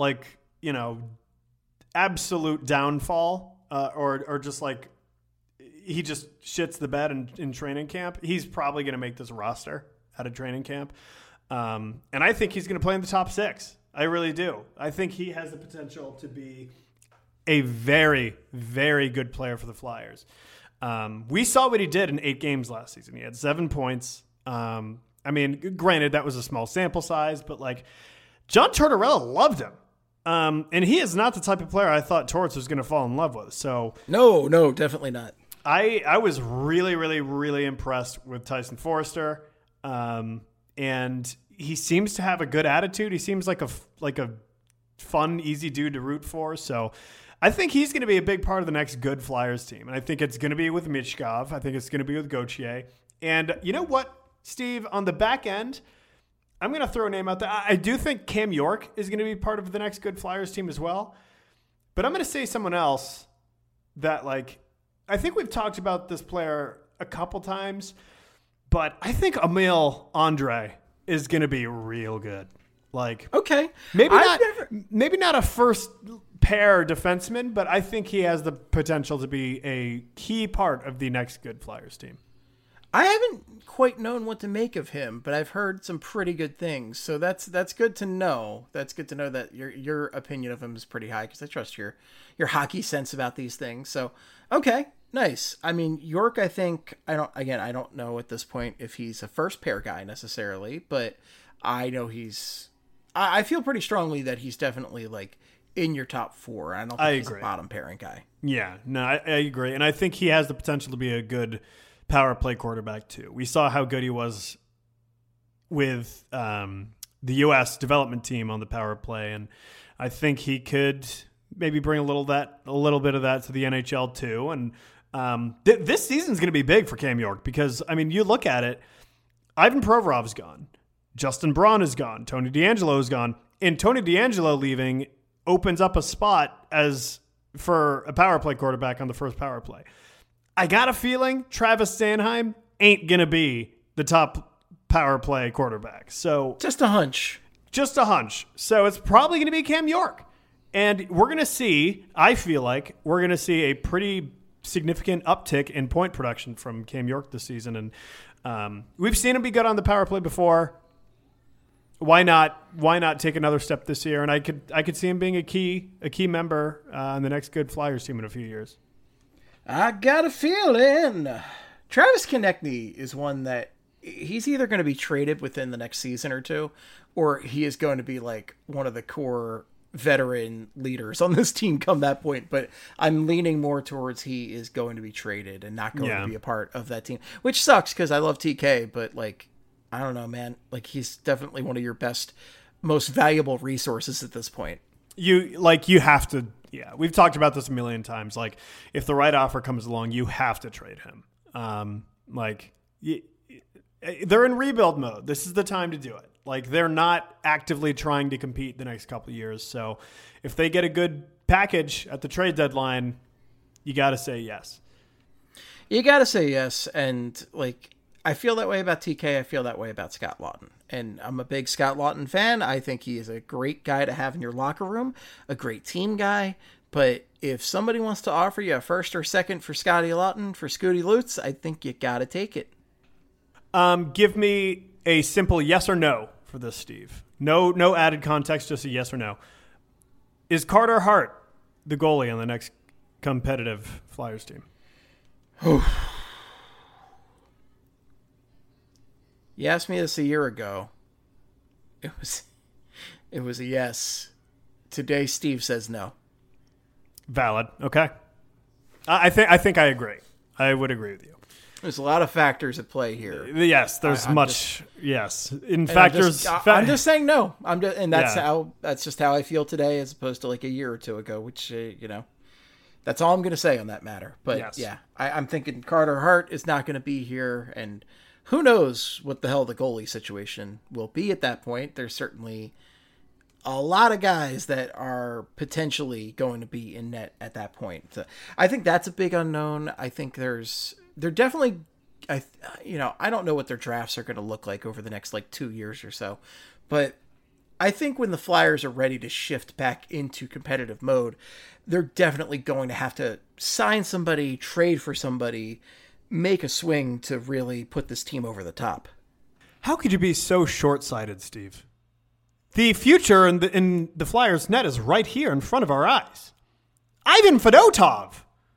absolute downfall, or just like he just shits the bed in training camp. He's probably going to make this roster out of training camp, and I think he's going to play in the top 6. I really do. I think he has the potential to be a very, very good player for the Flyers. We saw what he did in 8 games last season. He had 7 points. I mean, granted, that was a small sample size, but like John Tortorella loved him. And he is not the type of player I thought Torts was going to fall in love with. So no, definitely not. I was really, really, really impressed with Tyson Foerster. And he seems to have a good attitude. He seems like a fun, easy dude to root for. So I think he's going to be a big part of the next good Flyers team. And I think it's going to be with Michkov. I think it's going to be with Gauthier. And you know what, Steve, on the back end, I'm going to throw a name out there. I do think Cam York is going to be part of the next good Flyers team as well. But I'm going to say someone else that, like, I think we've talked about this player a couple times, but I think Emil Andre is going to be real good. Like, okay, maybe not a first pair defenseman, but I think he has the potential to be a key part of the next good Flyers team. I haven't quite known what to make of him, but I've heard some pretty good things. So that's good to know. That's good to know that your opinion of him is pretty high, because I trust your hockey sense about these things. So, okay, nice. I mean, York, I think I don't know at this point if he's a first pair guy necessarily, but I know I feel pretty strongly that he's definitely like in your top 4. I don't think he's a bottom pairing guy. Yeah, no, I agree, and I think he has the potential to be a good power play quarterback too. We saw how good he was with the U.S. development team on the power play, and I think he could maybe bring a little bit of that to the NHL too. And this season's going to be big for Cam York, because I mean, you look at it, Ivan Provorov's gone, Justin Braun is gone, Tony DeAngelo is gone, and Tony DeAngelo leaving opens up a spot for a power play quarterback on the first power play. I got a feeling Travis Sanheim ain't going to be the top power play quarterback. So just a hunch. So it's probably going to be Cam York. And we're going to see, I feel like we're going to see a pretty significant uptick in point production from Cam York this season. And we've seen him be good on the power play before. Why not take another step this year? And I could see him being a key member on the next good Flyers team in a few years. I got a feeling Travis Konechny is one that he's either going to be traded within the next season or two, or he is going to be like one of the core veteran leaders on this team come that point. But I'm leaning more towards he is going to be traded and not going to be a part of that team, which sucks because I love TK, but like, I don't know, man. Like, he's definitely one of your best, most valuable resources at this point. You have to. Yeah, we've talked about this a million times. Like, if the right offer comes along, you have to trade him. They're in rebuild mode. This is the time to do it. Like, they're not actively trying to compete the next couple of years. So if they get a good package at the trade deadline, you got to say yes. You got to say yes. And, like, I feel that way about TK. I feel that way about Scott Laughton. And I'm a big Scott Laughton fan. I think he is a great guy to have in your locker room, a great team guy. But if somebody wants to offer you a first or second for Scotty Laughton, for Scooty Lutz, I think you got to take it. Give me a simple yes or no for this, Steve. No added context, just a yes or no. Is Carter Hart the goalie on the next competitive Flyers team? You asked me this a year ago. It was a yes. Today, Steve says no. Valid. Okay. I think I agree. I would agree with you. There's a lot of factors at play here. Yes, there's yes. In factors, I'm just saying no. That's just how I feel today, as opposed to like a year or two ago. Which that's all I'm going to say on that matter. But yes. yeah, I'm thinking Carter Hart is not going to be here, and who knows what the hell the goalie situation will be at that point. There's certainly a lot of guys that are potentially going to be in net at that point. So I think that's a big unknown. I think they're definitely, I don't know what their drafts are going to look like over the next like 2 years or so, but I think when the Flyers are ready to shift back into competitive mode, they're definitely going to have to sign somebody, trade for somebody, make a swing to really put this team over the top. How could you be so short-sighted, Steve? The future in the Flyers net is right here in front of our eyes. Ivan Fedotov.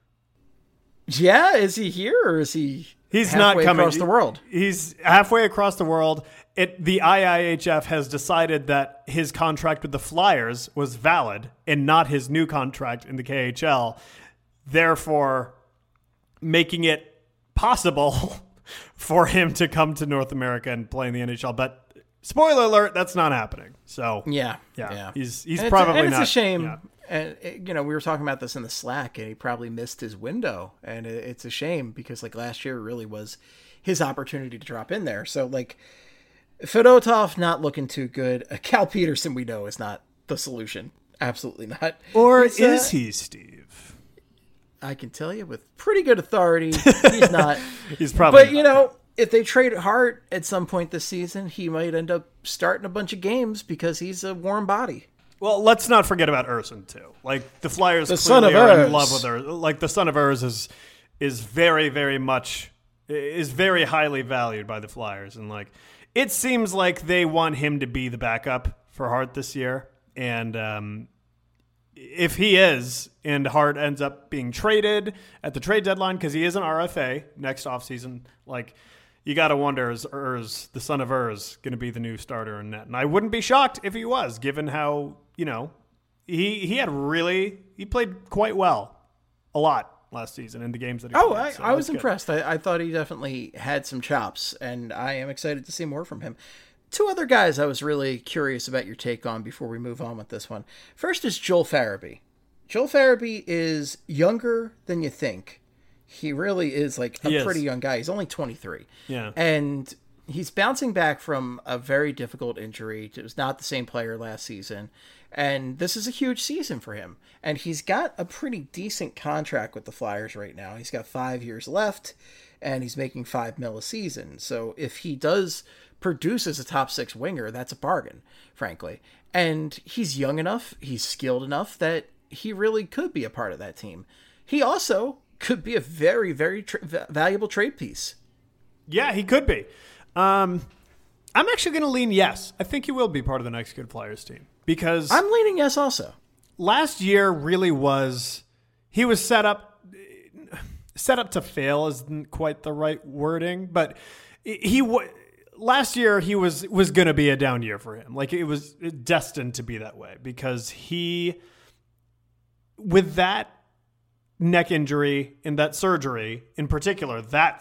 Yeah, is he here or is he? He's not coming across the world. He's halfway across the world. The IIHF has decided that his contract with the Flyers was valid and not his new contract in the KHL, therefore making it possible for him to come to North America and play in the NHL. But spoiler alert, that's not happening. So yeah. He's and probably not. It's a shame. Yeah. And we were talking about this in the Slack, and he probably missed his window, and it's a shame because like last year really was his opportunity to drop in there. So like Fedotov not looking too good. Cal Peterson, we know, is not the solution. Absolutely not. Or is he, Steve? I can tell you with pretty good authority, he's not. He's probably. But if they trade Hart at some point this season, he might end up starting a bunch of games because he's a warm body. Well, let's not forget about Urson too. Like the Flyers, the son of are Urs. in love with her. Like the son of Urs is very, very much is very highly valued by the Flyers, and like it seems like they want him to be the backup for Hart this year. And if he is, and Hart ends up being traded at the trade deadline because he is an RFA next offseason, like. You got to wonder, is Urs, the son of Urs, going to be the new starter in net? And I wouldn't be shocked if he was, given how, he played quite well a lot last season in the games that he played. I was impressed. I thought he definitely had some chops, and I am excited to see more from him. Two other guys I was really curious about your take on before we move on with this one. First is Joel Farabee. Joel Farabee is younger than you think. He really is like a pretty young guy. He's only 23. Yeah. And he's bouncing back from a very difficult injury. It was not the same player last season. And this is a huge season for him. And he's got a pretty decent contract with the Flyers right now. He's got 5 years left, and he's making $5 million a season. So if he does produce as a top 6 winger, that's a bargain, frankly. And he's young enough, he's skilled enough that he really could be a part of that team. He also could be a very, very valuable trade piece. Yeah, he could be. I'm actually going to lean yes. I think he will be part of the next Good Flyers team because I'm leaning yes also. Last year really he was set up to fail isn't quite the right wording, but last year he was going to be a down year for him. Like it was destined to be that way because with that neck injury and that surgery, in particular, it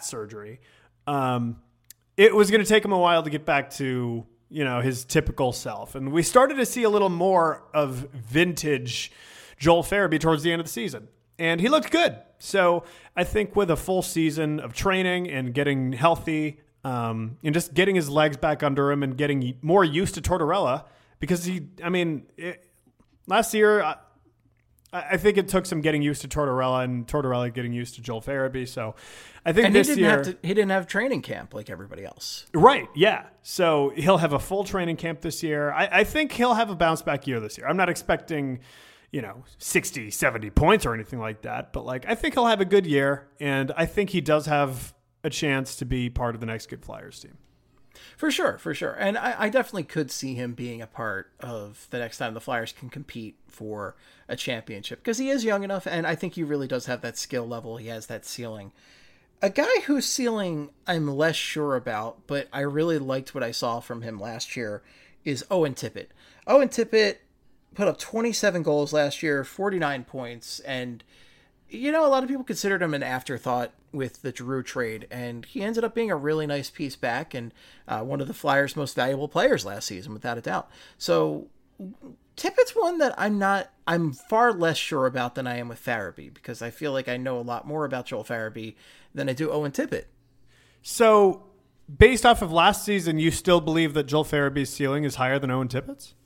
was going to take him a while to get back to, his typical self. And we started to see a little more of vintage Joel Farabee towards the end of the season. And he looked good. So I think with a full season of training and getting healthy and just getting his legs back under him and getting more used to Tortorella, because last year, I think it took some getting used to Tortorella and Tortorella getting used to Joel Farabee. So I think this year he didn't have training camp like everybody else. Right. Yeah. So he'll have a full training camp this year. I think he'll have a bounce back year this year. I'm not expecting, 60, 70 points or anything like that, but I think he'll have a good year. And I think he does have a chance to be part of the next Good Flyers team. For sure. And I definitely could see him being a part of the next time the Flyers can compete for a championship because he is young enough, and I think he really does have that skill level. He has that ceiling. A guy whose ceiling I'm less sure about, but I really liked what I saw from him last year, is Owen Tippett. Owen Tippett put up 27 goals last year, 49 points, and a lot of people considered him an afterthought with the Giroux trade, and he ended up being a really nice piece back and one of the Flyers' most valuable players last season, without a doubt. So Tippett's one that I'm far less sure about than I am with Farabee, because I feel like I know a lot more about Joel Farabee than I do Owen Tippett. So based off of last season, you still believe that Joel Farabee's ceiling is higher than Owen Tippett's?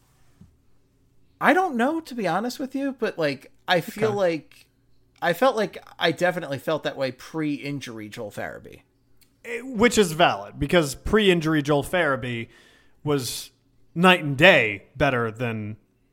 I don't know, to be honest with you, but like I feel like I felt like I definitely felt that way pre-injury Joel Farabee. Which is valid, because pre-injury Joel Farabee was night and day better than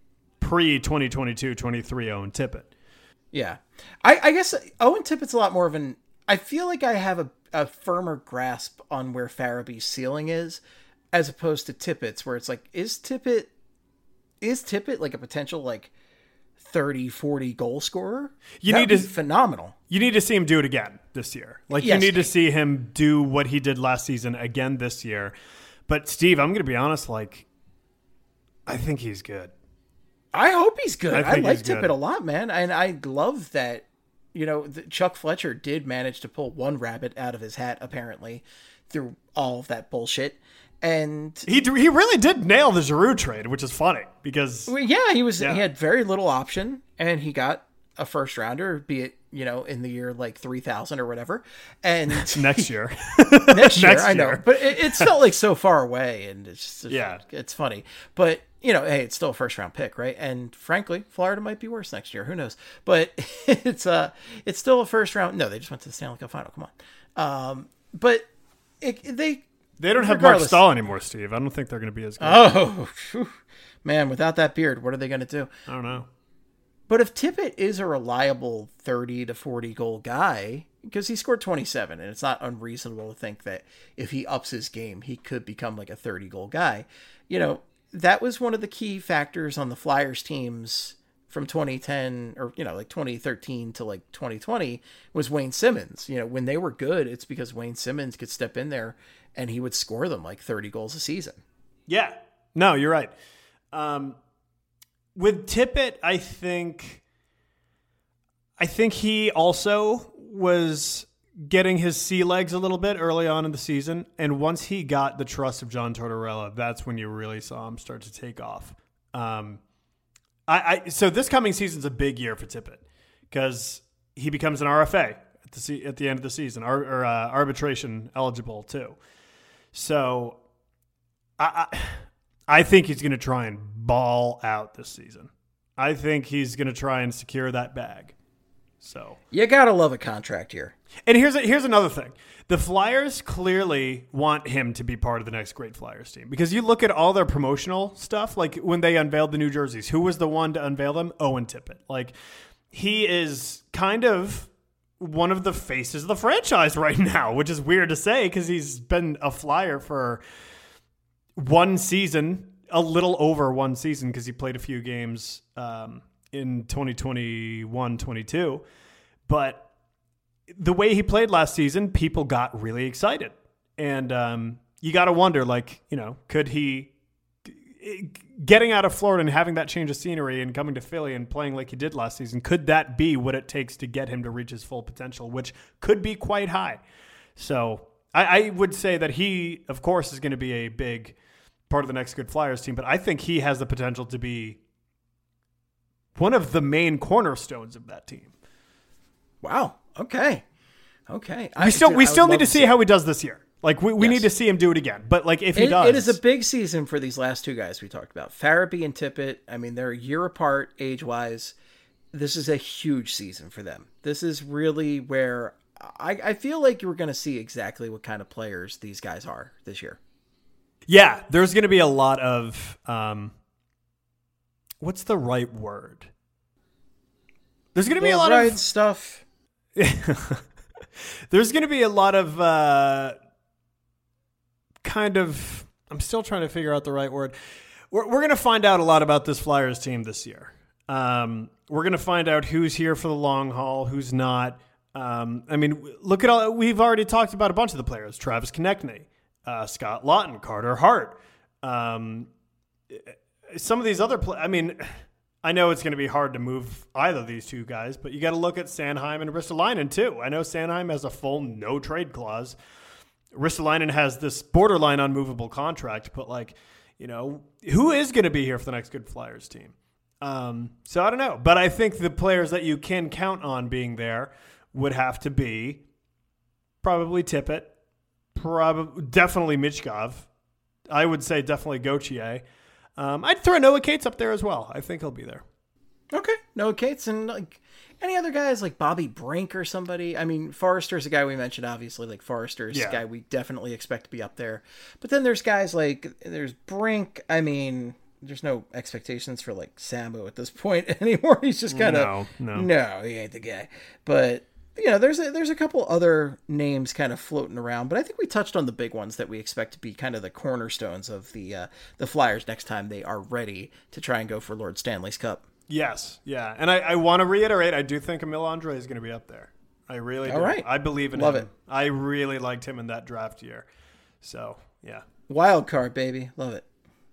pre-2022-23 Owen Tippett. Yeah. I guess Owen Tippett's a lot more of an... I feel like I have a firmer grasp on where Farabee's ceiling is, as opposed to Tippett's, where it's like, is Tippett like a potential like 30, 40 goal scorer? You need to phenomenal. You need to see him do it again this year. Like, yes. You need to see him do what he did last season again this year. But Steve, I'm going to be honest, like, I think he's good. I hope he's good. I like Tippett good. a lot, man. And I love that, Chuck Fletcher did manage to pull one rabbit out of his hat, apparently, through all of that bullshit. And he really did nail the Giroux trade, which is funny because he had very little option, and he got a first rounder, be it in the year like 3000 or whatever, and next year, I know, but it's felt like so far away, and it's just, it's funny, but hey, it's still a first round pick, right? And frankly, Florida might be worse next year. Who knows? But it's still a first round. No, they just went to the Stanley Cup final. Come on, but They don't have Mark Stahl anymore, Steve. I don't think they're going to be as good. Oh, man, without that beard, what are they going to do? I don't know. But if Tippett is a reliable 30 to 40 goal guy, because he scored 27, and it's not unreasonable to think that if he ups his game, he could become like a 30 goal guy. That was one of the key factors on the Flyers teams from 2010 or, like 2013 to like 2020 was Wayne Simmons. When they were good, it's because Wayne Simmons could step in there and he would score them like 30 goals a season. Yeah. No, you're right. With Tippett, I think he also was getting his sea legs a little bit early on in the season. And once he got the trust of John Tortorella, that's when you really saw him start to take off. So this coming season's a big year for Tippett because he becomes an RFA at the end of the season, or arbitration eligible too. So I think he's going to try and ball out this season. I think he's going to try and secure that bag. So you got to love a contract here. And here's another thing. The Flyers clearly want him to be part of the next great Flyers team because you look at all their promotional stuff, like when they unveiled the new jerseys, who was the one to unveil them? Owen Tippett. Like, he is kind of one of the faces of the franchise right now, which is weird to say because he's been a Flyer for one season, a little over one season because he played a few games in 2021-22. But the way he played last season, people got really excited. And you got to wonder, could he, getting out of Florida and having that change of scenery and coming to Philly and playing like he did last season, could that be what it takes to get him to reach his full potential, which could be quite high? So I would say that he, of course, is going to be a big part of the next good Flyers team, but I think he has the potential to be one of the main cornerstones of that team. Wow. Okay. We still need to see how he does this year. Like we need to see him do it again. But like if he does, it is a big season for these last two guys we talked about, Farabee and Tippett. I mean, they're a year apart age-wise. This is a huge season for them. This is really where I feel like you're going to see exactly what kind of players these guys are this year. Yeah, there's going to be a lot of what's the right word? There's going to be a lot of stuff. There's going to be a lot of I'm still trying to figure out the right word. We're going to find out a lot about this Flyers team this year. We're going to find out who's here for the long haul, who's not. I mean, look at all. We've already talked about a bunch of the players: Travis Konechny, Scott Lawton, Carter Hart. Some of these other I mean, I know it's going to be hard to move either of these two guys, but you got to look at Sanheim and Ristolainen too. I know Sanheim has a full no trade clause. Ristolainen has this borderline unmovable contract, but who is going to be here for the next Good Flyers team? So I don't know, but I think the players that you can count on being there would have to be probably Tippett, definitely Michkov. I would say definitely Gauthier. I'd throw Noah Cates up there as well. I think he'll be there. Okay, Noah Cates and any other guys like Bobby Brink or somebody. I mean, Forrester's a guy we mentioned, obviously. Forrester's a guy we definitely expect to be up there. But then there's guys there's Brink. I mean, there's no expectations for Sambo at this point anymore. He's just kind of no, he ain't the guy. But there's a couple other names kind of floating around, but I think we touched on the big ones that we expect to be kind of the cornerstones of the Flyers next time they are ready to try and go for Lord Stanley's Cup. Yes, yeah, and I want to reiterate, I do think Emil Andre is going to be up there. I really do. All right. I believe in him. Love it. I really liked him in that draft year. So, yeah. Wild card, baby. Love it.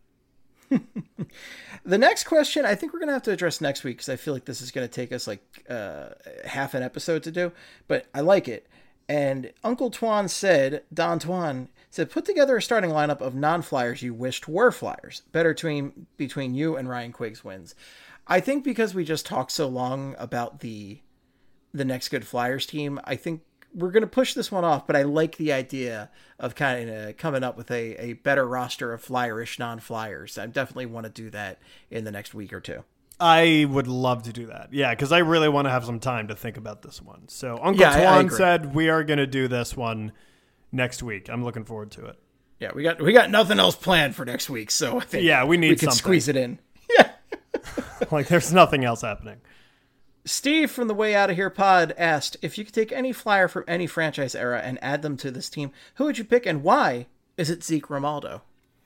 The next question, I think we're going to have to address next week because I feel like this is going to take us half an episode to do, but I like it. And Uncle Twan Don Twan said, put together a starting lineup of non-Flyers you wished were Flyers. Better team between you and Ryan Quiggs wins. I think because we just talked so long about the next Good Flyers team, I think we're going to push this one off, but I like the idea of kind of coming up with a better roster of Flyerish non-Flyers. I definitely want to do that in the next week or two. I would love to do that. Yeah, because I really want to have some time to think about this one. So Uncle Twan said we are going to do this one next week. I'm looking forward to it. Yeah, we got nothing else planned for next week, so I think we need can something. Squeeze it in. Yeah. There's nothing else happening. Steve from the Way Out of Here pod asked, if you could take any Flyer from any franchise era and add them to this team, who would you pick and why? Is it Zeke Romaldo?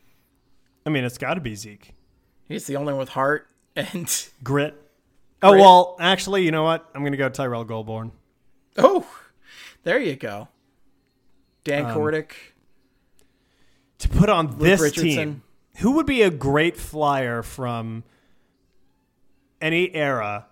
I mean, it's got to be Zeke. He's the only one with heart and grit. Oh, well, actually, you know what? I'm going to go Tyrell Goulbourne. Oh, there you go. Dan Kordick. To put on this team, who would be a great Flyer from any era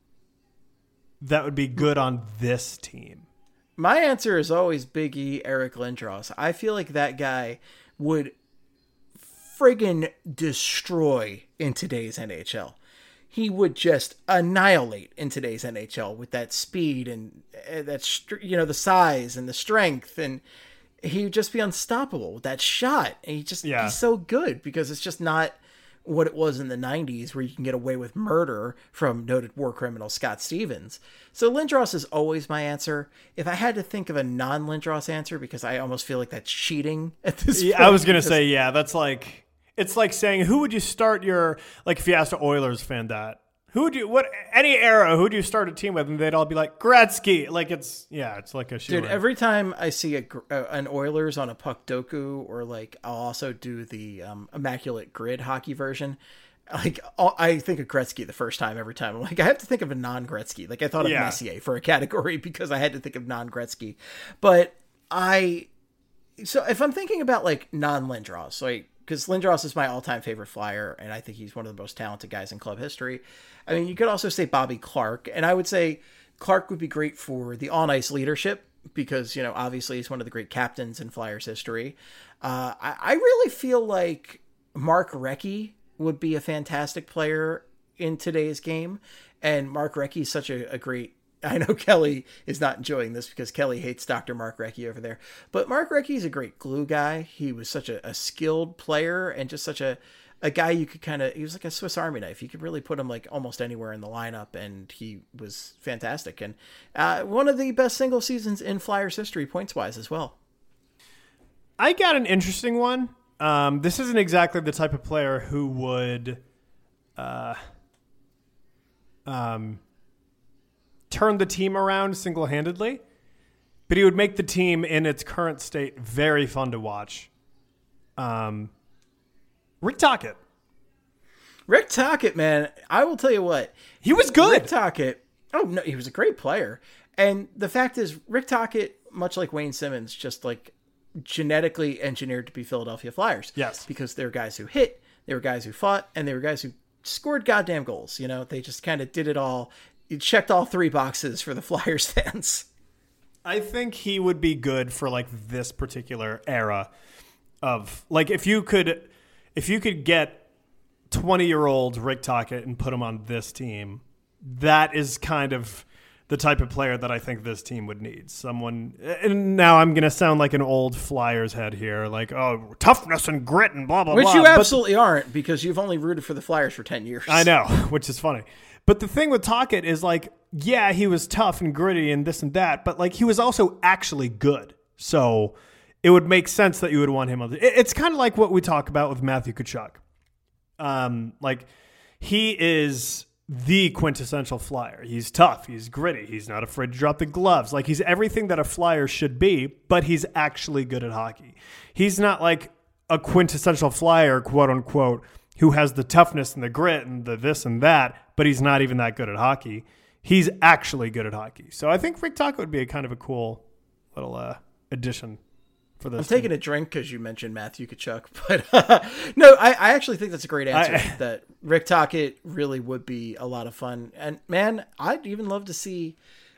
that would be good on this team? My answer is always Big E, Eric Lindros. I feel like that guy would friggin' destroy in today's NHL. He would just annihilate in today's NHL with that speed and that, the size and the strength, and he would just be unstoppable with that shot. And he's so good because it's just not what it was in the 90s where you can get away with murder from noted war criminal Scott Stevens. So Lindros is always my answer. If I had to think of a non-Lindros answer, because I almost feel like that's cheating at this point. I was going to say, that's it's like saying, who would you start if you asked an Oilers fan that, any era, who do you start a team with? And they'd all be like, Gretzky. It's like a shoe. Dude, every time I see an Oilers on a puck doku, or I'll also do the Immaculate Grid hockey version, I think of Gretzky the first time every time. I'm like, I have to think of a non-Gretzky. I thought of Messier for a category because I had to think of non-Gretzky. But so if I'm thinking about non-Lindros, because Lindros is my all-time favorite Flyer, and I think he's one of the most talented guys in club history. I mean, you could also say Bobby Clarke, and I would say Clarke would be great for the on-ice leadership because, obviously he's one of the great captains in Flyers history. I really feel like Mark Recchi would be a fantastic player in today's game, and Mark Recchi is such a great... I know Kelly is not enjoying this because Kelly hates Dr. Mark Recchi over there. But Mark Recchi is a great glue guy. He was such a skilled player and just such a guy you could he was like a Swiss Army knife. You could really put him almost anywhere in the lineup, and he was fantastic. And one of the best single seasons in Flyers history, points-wise as well. I got an interesting one. This isn't exactly the type of player who would... turn the team around single-handedly, but he would make the team in its current state very fun to watch. Rick Tocchet. Rick Tocchet, man, I will tell you what. He was good. Rick Tocchet, no, he was a great player. And the fact is, Rick Tocchet, much like Wayne Simmons, just genetically engineered to be Philadelphia Flyers. Yes. Because they were guys who hit, they were guys who fought, and they were guys who scored goddamn goals. You know, they just kind of did it all. It checked all 3 boxes for the Flyers fans. I think he would be good for like this particular era of like if you could get 20-year-old Rick Tocchet and put him on this team, that is kind of the type of player that I think this team would need. Someone, and now I'm going to sound like an old Flyers head here, like, oh, toughness and grit and blah, blah, Which blah. you absolutely aren't, because you've only rooted for the Flyers for 10 years. I know, which is funny. But the thing with Tocchet is like, yeah, he was tough and gritty and this and that, but like he was also actually good. So it would make sense that you would want him on. It's kind of like what we talk about with Matthew Tkachuk. Like he is the quintessential Flyer. He's tough. He's gritty. He's not afraid to drop the gloves. Like he's everything that a Flyer should be, but he's actually good at hockey. He's not like a quintessential Flyer, quote unquote, who has the toughness and the grit and the this and that, but he's not even that good at hockey. He's actually good at hockey. So I think Rick Tocchet would be a kind of a cool little addition for this. I'm taking a drink because you mentioned Matthew Tkachuk, but no, I actually think that's a great answer. That Rick Tocchet really would be a lot of fun. And man, I would love to see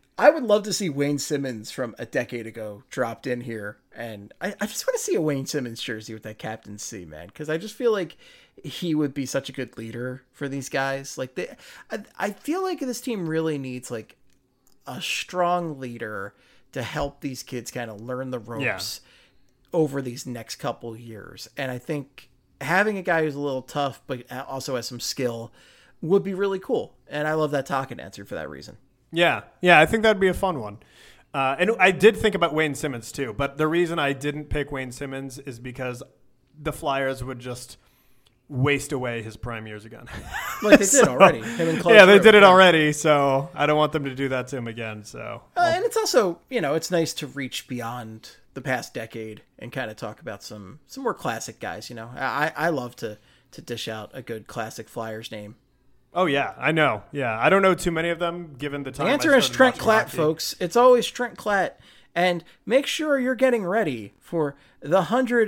Wayne Simmons from a decade ago dropped in here. And I just want to see a Wayne Simmons jersey with that Captain C, man. Because I just feel like he would be such a good leader for these guys. Like I feel like this team really needs like a strong leader to help these kids kind of learn the ropes over these next couple years. And I think having a guy who's a little tough, but also has some skill would be really cool. And I love that Tocchet answer for that reason. Yeah. I think that'd be a fun one. And I did think about Wayne Simmons too, but the reason I didn't pick Wayne Simmons is because the Flyers would just waste away his prime years again. Like they did already. Him and Claude they Giroux. did it already, so I don't want them to do that to him again. So, and it's also, it's nice to reach beyond the past decade and kind of talk about some more classic guys. I love to dish out a good classic Flyers name. Oh yeah, I know. Yeah, I don't know too many of them given the time. The answer is Trent Klatt, folks. It's always Trent Klatt. And make sure you're getting ready for the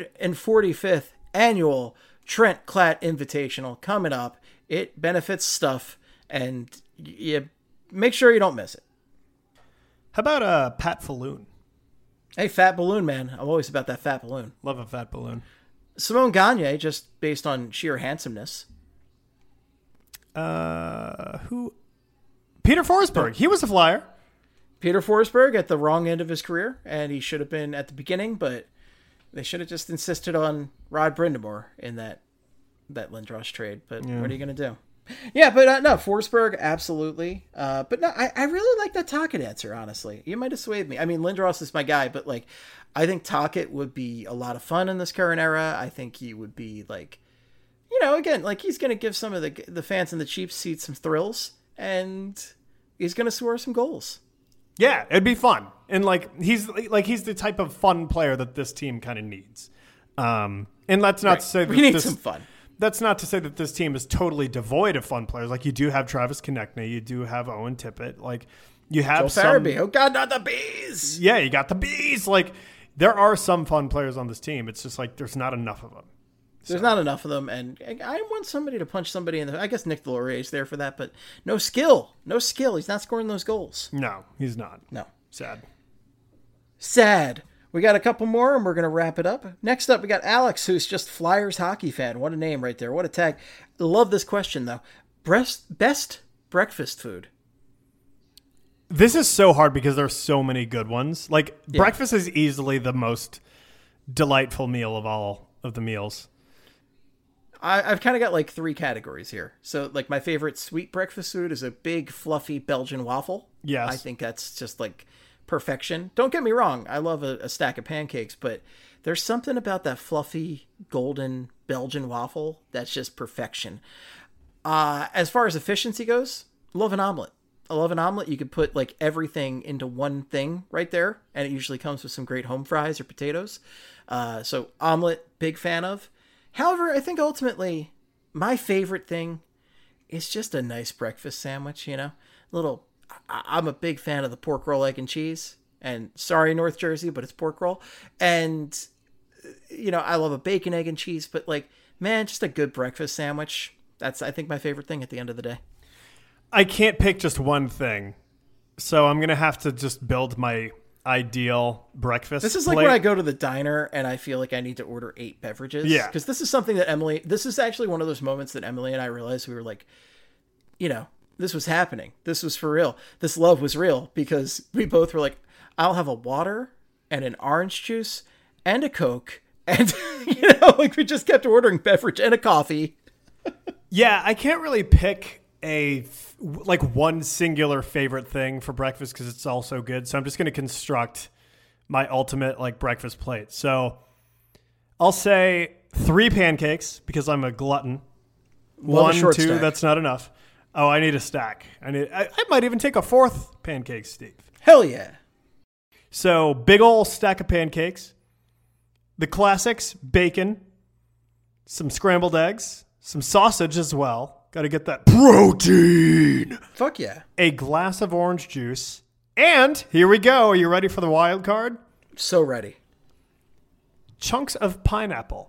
145th annual Trent Klatt Invitational coming up. It benefits stuff, and you make sure you don't miss it. How about Pat Falloon? Hey, fat balloon, man. I'm always about that fat balloon. Love a fat balloon. Simone Gagne, just based on sheer handsomeness. Who? Peter Forsberg. He was a Flyer. Peter Forsberg at the wrong end of his career, and he should have been at the beginning, but they should have just insisted on Rod Brind'Amour in that Lindros trade. But what are you going to do? Yeah, but no, Forsberg, absolutely. But no, I really like that Tocchet answer, honestly. You might have swayed me. I mean, Lindros is my guy, but like, I think Tocchet would be a lot of fun in this current era. I think he would be like, again, like he's going to give some of the fans in the cheap seats some thrills, and he's going to score some goals. Yeah, it'd be fun. And he's the type of fun player that this team kind of needs. And that's not to say that we need some fun. That's not to say that this team is totally devoid of fun players. Like you do have Travis Konechny, you do have Owen Tippett, like you have Joe Farabee. Oh God, not the bees! Yeah, you got the bees. Like there are some fun players on this team. It's just like there's not enough of them. There's not enough of them, and I want somebody to punch somebody in the... I guess Nick Delorier's there for that, but no skill. No skill. He's not scoring those goals. No, he's not. No. Sad. We got a couple more, and we're going to wrap it up. Next up, we got Alex, who's just Flyers hockey fan. What a name right there. What a tag. Love this question, though. Best breakfast food? This is so hard because there's so many good ones. Breakfast is easily the most delightful meal of all of the meals. I've kind of got like 3 categories here. So like my favorite sweet breakfast food is a big fluffy Belgian waffle. Yes. I think that's just like perfection. Don't get me wrong. I love a stack of pancakes, but there's something about that fluffy golden Belgian waffle that's just perfection. As far as efficiency goes, love an omelet. I love an omelet. You could put like everything into one thing right there, and it usually comes with some great home fries or potatoes. So omelet, big fan of. However, I think ultimately my favorite thing is just a nice breakfast sandwich, I'm a big fan of the pork roll, egg, and cheese. And sorry, North Jersey, but it's pork roll. And, I love a bacon, egg, and cheese. But, just a good breakfast sandwich. That's, I think, my favorite thing at the end of the day. I can't pick just one thing, so I'm going to have to just build my ideal breakfast. This is like plate. when I go to the diner and I feel like I need to order 8 beverages. Yeah. Because this is something that this is actually one of those moments that Emily and I realized we were like, this was happening. This was for real. This love was real, because we both were like, I'll have a water and an orange juice and a Coke. And, like we just kept ordering beverage and a coffee. Yeah, I can't really pick one singular favorite thing for breakfast because it's all so good. So I'm just going to construct my ultimate breakfast plate. So I'll say 3 pancakes because I'm a glutton. Love a 1, 2, stack. that's not enough. Oh, I need a stack. I might even take a 4th pancake, Steve. Hell yeah. So big ol' stack of pancakes, the classics, bacon, some scrambled eggs, some sausage as well. Got to get that protein. Fuck yeah. A glass of orange juice. And here we go. Are you ready for the wild card? So ready. Chunks of pineapple.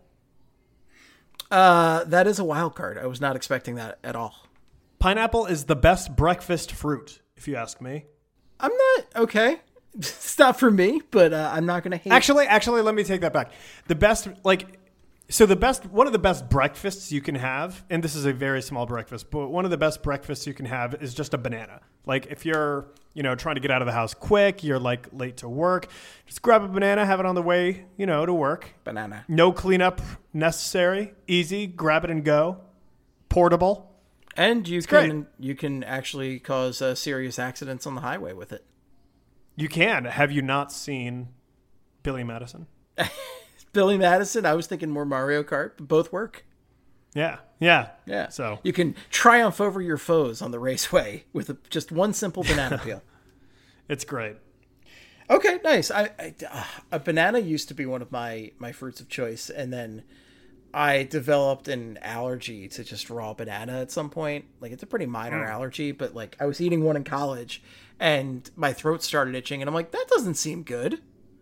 That is a wild card. I was not expecting that at all. Pineapple is the best breakfast fruit, if you ask me. I'm not okay. It's not for me, but I'm not going to hate. Actually, let me take that back. The best, one of the best breakfasts you can have, and this is a very small breakfast, but one of the best breakfasts you can have is just a banana. Like if you're, trying to get out of the house quick, you're late to work, just grab a banana, have it on the way, to work. Banana. No cleanup necessary. Easy. Grab it and go. Portable. And you can actually cause serious accidents on the highway with it. You can. Have you not seen Billy Madison? Billy Madison, I was thinking more Mario Kart, but both work. Yeah. So you can triumph over your foes on the raceway with just one simple banana peel. It's great. Okay, nice. A banana used to be one of my fruits of choice, and then I developed an allergy to just raw banana at some point. It's a pretty minor allergy, but I was eating one in college and my throat started itching and I'm like, that doesn't seem good.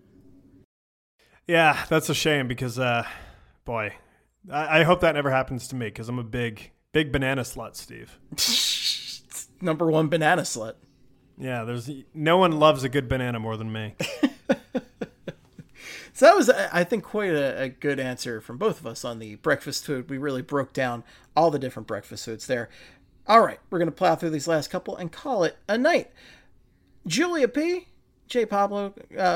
Yeah, that's a shame because, boy, I hope that never happens to me because I'm a big banana slut, Steve. Number 1 banana slut. Yeah, no one loves a good banana more than me. So that was, I think, quite a good answer from both of us on the breakfast food. We really broke down all the different breakfast foods there. All right, we're going to plow through these last couple and call it a night. Julia P., J. Pablo,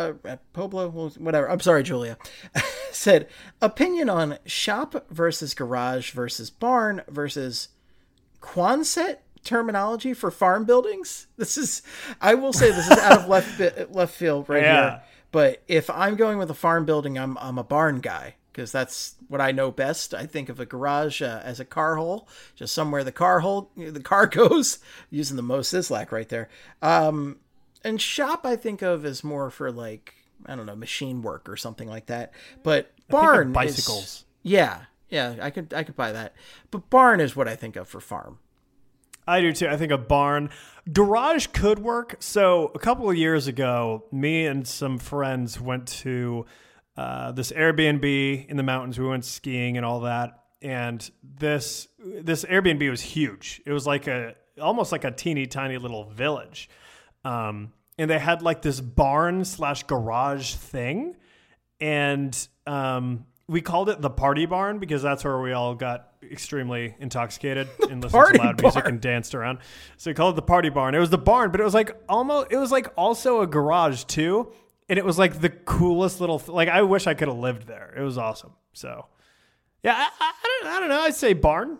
Poblo, whatever. I'm sorry, Julia. Said, opinion on shop versus garage versus barn versus Quonset terminology for farm buildings. I will say this is out of left field right here. But if I'm going with a farm building, I'm a barn guy because that's what I know best. I think of a garage as a car hole, just somewhere the car goes, using the Mo Sislak right there. And shop I think of as more for machine work or something like that. But barn bicycles. Yeah, I could buy that. But barn is what I think of for farm. I do too. I think a barn. Garage could work. So a couple of years ago, me and some friends went to this Airbnb in the mountains. We went skiing and all that. And this Airbnb was huge. It was almost like a teeny tiny little village. And they had this barn / garage thing. And we called it the party barn because that's where we all got extremely intoxicated and listened to loud music and danced around. So we called it the party barn. It was the barn, but it was also a garage too. And it was the coolest little, I wish I could have lived there. It was awesome. So yeah, I don't know. I'd say barn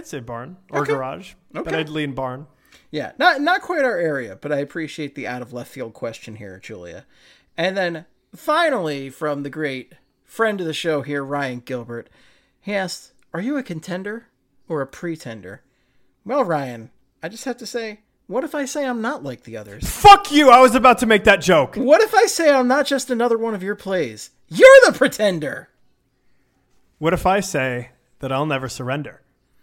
or garage, but I'd lean barn. Yeah. Not quite our area, but I appreciate the out of left field question here, Julia. And then finally from the great friend of the show here, Ryan Gilbert, he asked, are you a contender or a pretender? Well, Ryan, I just have to say, what if I say I'm not like the others? Fuck you! I was about to make that joke. What if I say I'm not just another one of your plays? You're the pretender! What if I say that I'll never surrender?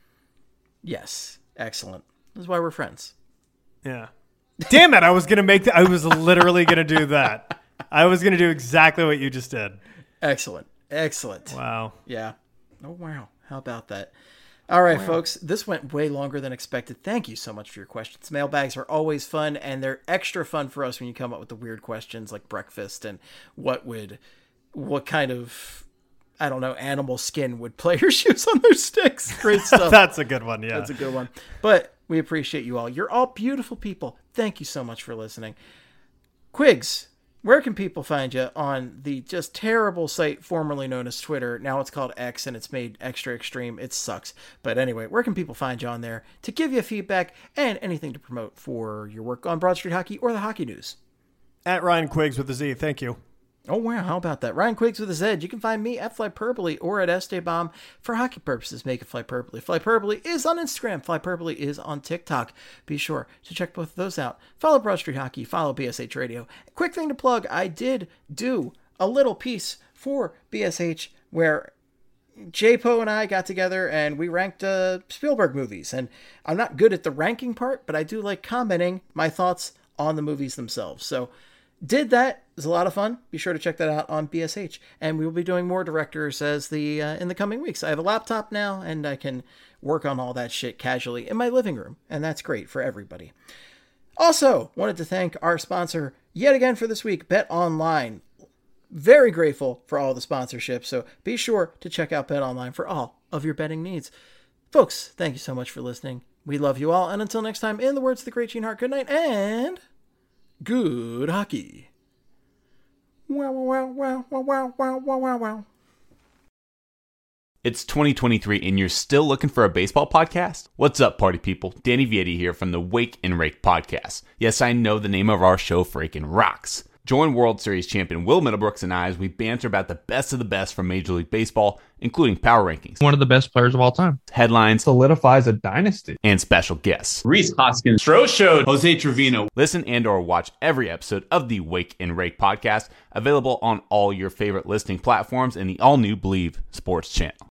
Yes. Excellent. This is why we're friends. Yeah. Damn it, I was going to make that. I was literally going to do that. I was going to do exactly what you just did. Excellent. Wow. Yeah. Oh, wow. How about that? All right, folks, this went way longer than expected. Thank you so much for your questions. Mailbags are always fun, and they're extra fun for us when you come up with the weird questions like breakfast and what kind of, I don't know, animal skin would players use on their sticks. Great stuff. That's a good one, yeah. That's a good one. But we appreciate you all. You're all beautiful people. Thank you so much for listening. Quigs, where can people find you on the just terrible site formerly known as Twitter? Now it's called X, and it's made extra extreme. It sucks. But anyway, where can people find you on there to give you feedback and anything to promote for your work on Broad Street Hockey or the hockey news? At Ryan Quiggs with a Z. Thank you. Oh, wow. How about that? Ryan Quiggs with a Z. You can find me at Flyperbole or at Esteban for hockey purposes. Make it Flyperbole. Flyperbole is on Instagram. Flyperbole is on TikTok. Be sure to check both of those out. Follow Broad Street Hockey. Follow BSH Radio. Quick thing to plug. I did do a little piece for BSH where J-Po and I got together and we ranked Spielberg movies. And I'm not good at the ranking part, but I do like commenting my thoughts on the movies themselves. So did that. It was a lot of fun. Be sure to check that out on BSH. And we will be doing more directors as in the coming weeks. I have a laptop now, and I can work on all that shit casually in my living room. And that's great for everybody. Also, wanted to thank our sponsor yet again for this week, Bet Online. Very grateful for all the sponsorships. So be sure to check out Bet Online for all of your betting needs. Folks, thank you so much for listening. We love you all. And until next time, in the words of the great Gene Hart, good night and good hockey. Wow, wow, wow, wow, wow, wow, wow, wow, wow. It's 2023 and you're still looking for a baseball podcast? What's up, party people? Danny Vietti here from the Wake and Rake podcast. Yes, I know the name of our show freaking rocks. Join World Series champion Will Middlebrooks and I as we banter about the best of the best from Major League Baseball, including power rankings, one of the best players of all time, headlines, solidifies a dynasty, and special guests. Rhys Hoskins, Stroh Show, Jose Trevino. Listen and or watch every episode of the Wake and Rake podcast, available on all your favorite listening platforms and the all-new Believe Sports channel.